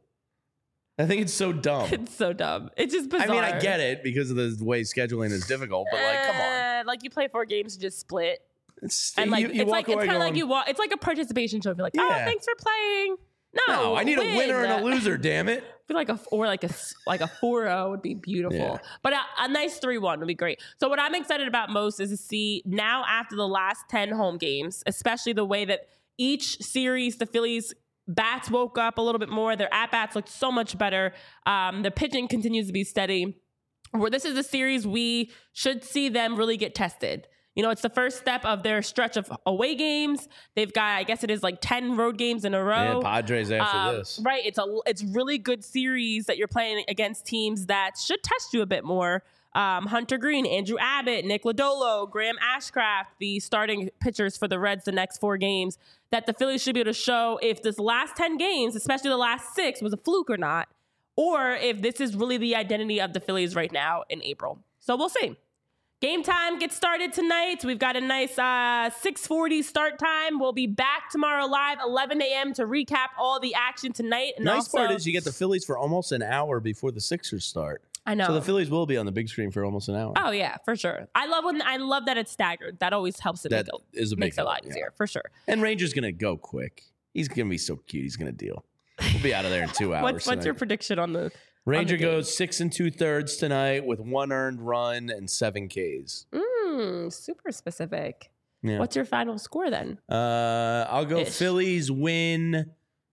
Speaker 2: I think it's so dumb.
Speaker 1: It's so dumb. It's just bizarre.
Speaker 2: I mean, I get it because of the way scheduling is difficult, but like, come on.
Speaker 1: Uh, like you play four games to just split.
Speaker 2: It's,
Speaker 1: And like
Speaker 2: you, you
Speaker 1: it's like
Speaker 2: walk
Speaker 1: it's
Speaker 2: away
Speaker 1: kind of like
Speaker 2: going,
Speaker 1: you walk. It's like a participation trophy. Like, oh,
Speaker 2: Yeah.
Speaker 1: thanks for playing. No,
Speaker 2: No, I need
Speaker 1: win.
Speaker 2: a winner and a loser, damn it.
Speaker 1: I feel like a or like a like a four oh would be beautiful.
Speaker 2: Yeah.
Speaker 1: But a, a nice three one would be great. So what I'm excited about most is to see now after the last ten home games, especially the way that each series the Phillies bats woke up a little bit more. Their at bats looked so much better. Um, the pitching continues to be steady. Where this is a series we should see them really get tested. You know, it's the first step of their stretch of away games. They've got, I guess it is like ten road games in a row.
Speaker 2: Yeah, Padres after
Speaker 1: Um,
Speaker 2: this.
Speaker 1: Right. It's a it's really good series that you're playing against teams that should test you a bit more. Um, Hunter Green, Andrew Abbott, Nick Lodolo, Graham Ashcraft, the starting pitchers for the Reds the next four games, that the Phillies should be able to show if this last ten games, especially the last six, was a fluke or not, or if this is really the identity of the Phillies right now in April. So we'll see. Game time gets started tonight. We've got a nice uh, six forty start time. We'll be back tomorrow live, eleven a.m. to recap all the action tonight. And
Speaker 2: Nice
Speaker 1: also,
Speaker 2: part is you get the Phillies for almost an hour before the Sixers start.
Speaker 1: I know.
Speaker 2: So the Phillies will be on the big screen for almost an hour.
Speaker 1: Oh yeah, for sure. I love when I love that it's staggered. That always helps it
Speaker 2: That
Speaker 1: make it,
Speaker 2: is a big
Speaker 1: makes it a lot
Speaker 2: help, yeah.
Speaker 1: easier, for sure.
Speaker 2: And Ranger's going to go quick. He's going to be so cute. He's going to deal. We'll be out of there in two hours.
Speaker 1: What's, what's your
Speaker 2: tonight.
Speaker 1: prediction on the
Speaker 2: Ranger
Speaker 1: on the game?
Speaker 2: goes six and two thirds tonight with one earned run and seven Ks.
Speaker 1: Mm, super specific.
Speaker 2: Yeah.
Speaker 1: What's your final score then?
Speaker 2: Uh, I'll go
Speaker 1: Ish.
Speaker 2: Phillies win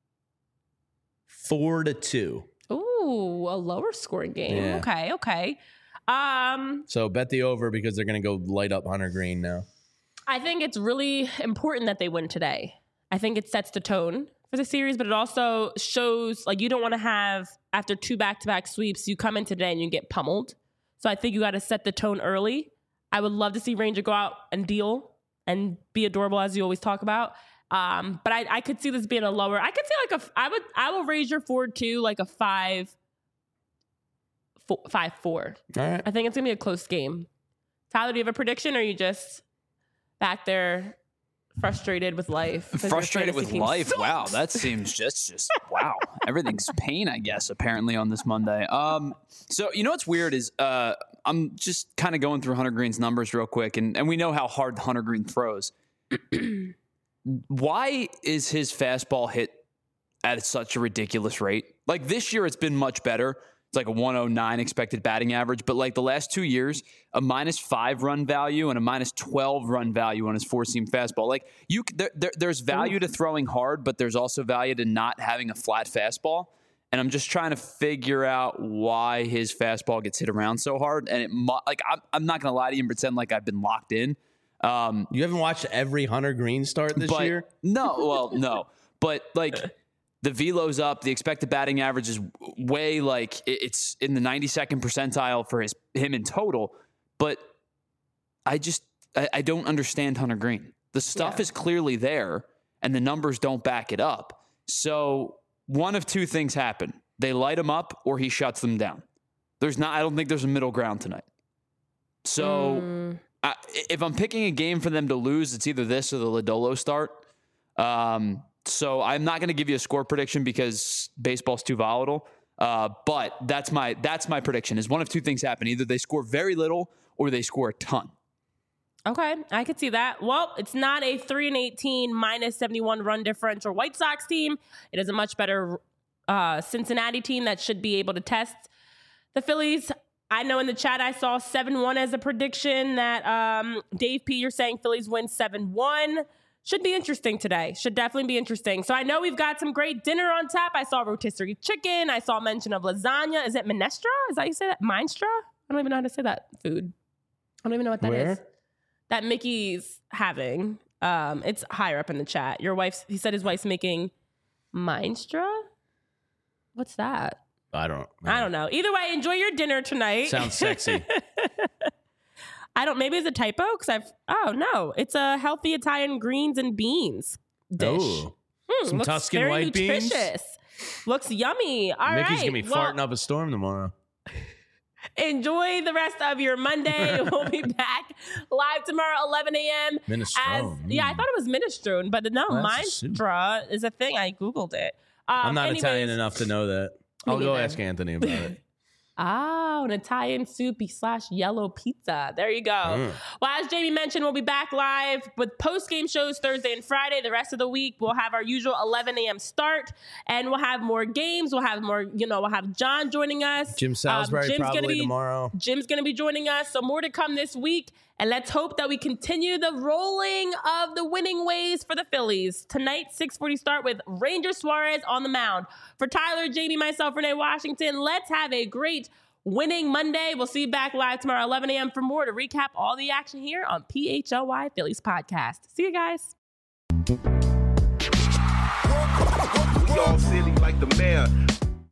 Speaker 2: four to two.
Speaker 1: Ooh, a lower scoring game.
Speaker 2: Yeah.
Speaker 1: Okay, okay. Um,
Speaker 2: So bet the over because they're going to go light up Hunter Green now.
Speaker 1: I think it's really important that they win today. I think it sets the tone for the series, but it also shows like you don't want to have after two back-to-back sweeps, you come in today and you get pummeled. So I think you got to set the tone early. I would love to see Ranger go out and deal and be adorable as you always talk about. Um, but I, I could see this being a lower. I could see like a. I would. I will raise your forward to like a five, four, five four.
Speaker 2: All right.
Speaker 1: I think it's gonna be a close game. Tyler, do you have a prediction, or are you just back there frustrated with life? 'cause your
Speaker 3: Frustrated
Speaker 1: fantasy
Speaker 3: with
Speaker 1: team
Speaker 3: life.
Speaker 1: sucks?
Speaker 3: Wow, that seems just just wow. Everything's pain, I guess. Apparently on this Monday. Um, so you know what's weird is uh, I'm just kind of going through Hunter Green's numbers real quick, and and we know how hard Hunter Green throws. Why is his fastball hit at such a ridiculous rate? Like this year, it's been much better. It's like a one oh nine expected batting average, but like the last two years, a minus five run value and a minus twelve run value on his four seam fastball. Like you, there, there, there's value to throwing hard, but there's also value to not having a flat fastball. And I'm just trying to figure out why his fastball gets hit around so hard. And it, mu- like I'm, I'm not gonna lie to you and pretend like I've been locked in. Um,
Speaker 2: You haven't watched every Hunter Green start this
Speaker 3: but
Speaker 2: year?
Speaker 3: no, well, no, but like the velo's up, the expected batting average is way like it- it's in the ninety-second percentile for his him in total. But I just I, I don't understand Hunter Green. The stuff
Speaker 1: Yeah.
Speaker 3: is clearly there, and the numbers don't back it up. So one of two things happen: they light him up, or he shuts them down. There's not. I don't think there's a middle ground tonight. So.
Speaker 1: Mm.
Speaker 3: I, if I'm picking a game for them to lose, it's either this or the Lodolo start. Um, so I'm not going to give you a score prediction because baseball's too volatile. Uh, but that's my that's my prediction. Is one of two things happen: either they score very little or they score a ton.
Speaker 1: Okay, I could see that. Well, it's not a three and eighteen minus seventy-one run differential White Sox team. It is a much better uh, Cincinnati team that should be able to test the Phillies. I know in the chat I saw seven one as a prediction that um, Dave P, you're saying Phillies win seven one. Should be interesting today. Should definitely be interesting. So I know we've got some great dinner on tap. I saw rotisserie chicken. I saw mention of lasagna. Is it minestra? Is that how you say that? Minestra? I don't even know how to say that food. I don't even know what that
Speaker 2: Where?
Speaker 1: is. That Mickey's having. Um, it's higher up in the chat. Your wife's, he said his wife's making minestra? What's that?
Speaker 2: I don't.
Speaker 1: I don't know. Either way, enjoy your dinner tonight.
Speaker 2: Sounds sexy.
Speaker 1: I don't, maybe it's a typo because I've, oh no, it's a healthy Italian greens and beans dish.
Speaker 2: Oh,
Speaker 1: Hmm,
Speaker 2: some
Speaker 1: looks
Speaker 2: Tuscan
Speaker 1: very
Speaker 2: white beans?
Speaker 1: nutritious. Looks yummy. All right.
Speaker 2: Mickey's gonna be
Speaker 1: well,
Speaker 2: farting up a storm tomorrow.
Speaker 1: enjoy the rest of your Monday. We'll be back live tomorrow, eleven a.m. As,
Speaker 2: Minestrone.
Speaker 1: yeah, I
Speaker 2: Mm.
Speaker 1: thought it was minestrone, but no,
Speaker 2: Well, that's a soup.
Speaker 1: minestra is a thing. I Googled it. Um,
Speaker 2: I'm not
Speaker 1: anyways,
Speaker 2: Italian enough to know that.
Speaker 1: Me
Speaker 2: I'll go
Speaker 1: neither.
Speaker 2: ask Anthony about it.
Speaker 1: Oh, an Italian soupy slash yellow pizza. There you go.
Speaker 2: Mm.
Speaker 1: Well, as Jamie mentioned, we'll be back live with post-game shows Thursday and Friday. The rest of the week, we'll have our usual eleven a.m. start, and we'll have more games. We'll have more, you know, we'll have John joining us.
Speaker 2: Jim Salisbury
Speaker 1: Um, Jim's
Speaker 2: probably
Speaker 1: gonna be,
Speaker 2: tomorrow.
Speaker 1: Jim's going to be joining us. So more to come this week. And let's hope that we continue the rolling of the winning ways for the Phillies. Tonight, six forty start with Ranger Suarez on the mound. For Tyler, Jamie, myself, Renee Washington, let's have a great winning Monday. We'll see you back live tomorrow, eleven a.m. for more to recap all the action here on P H L Y Phillies Podcast. See you guys.
Speaker 4: We all silly like the mayor.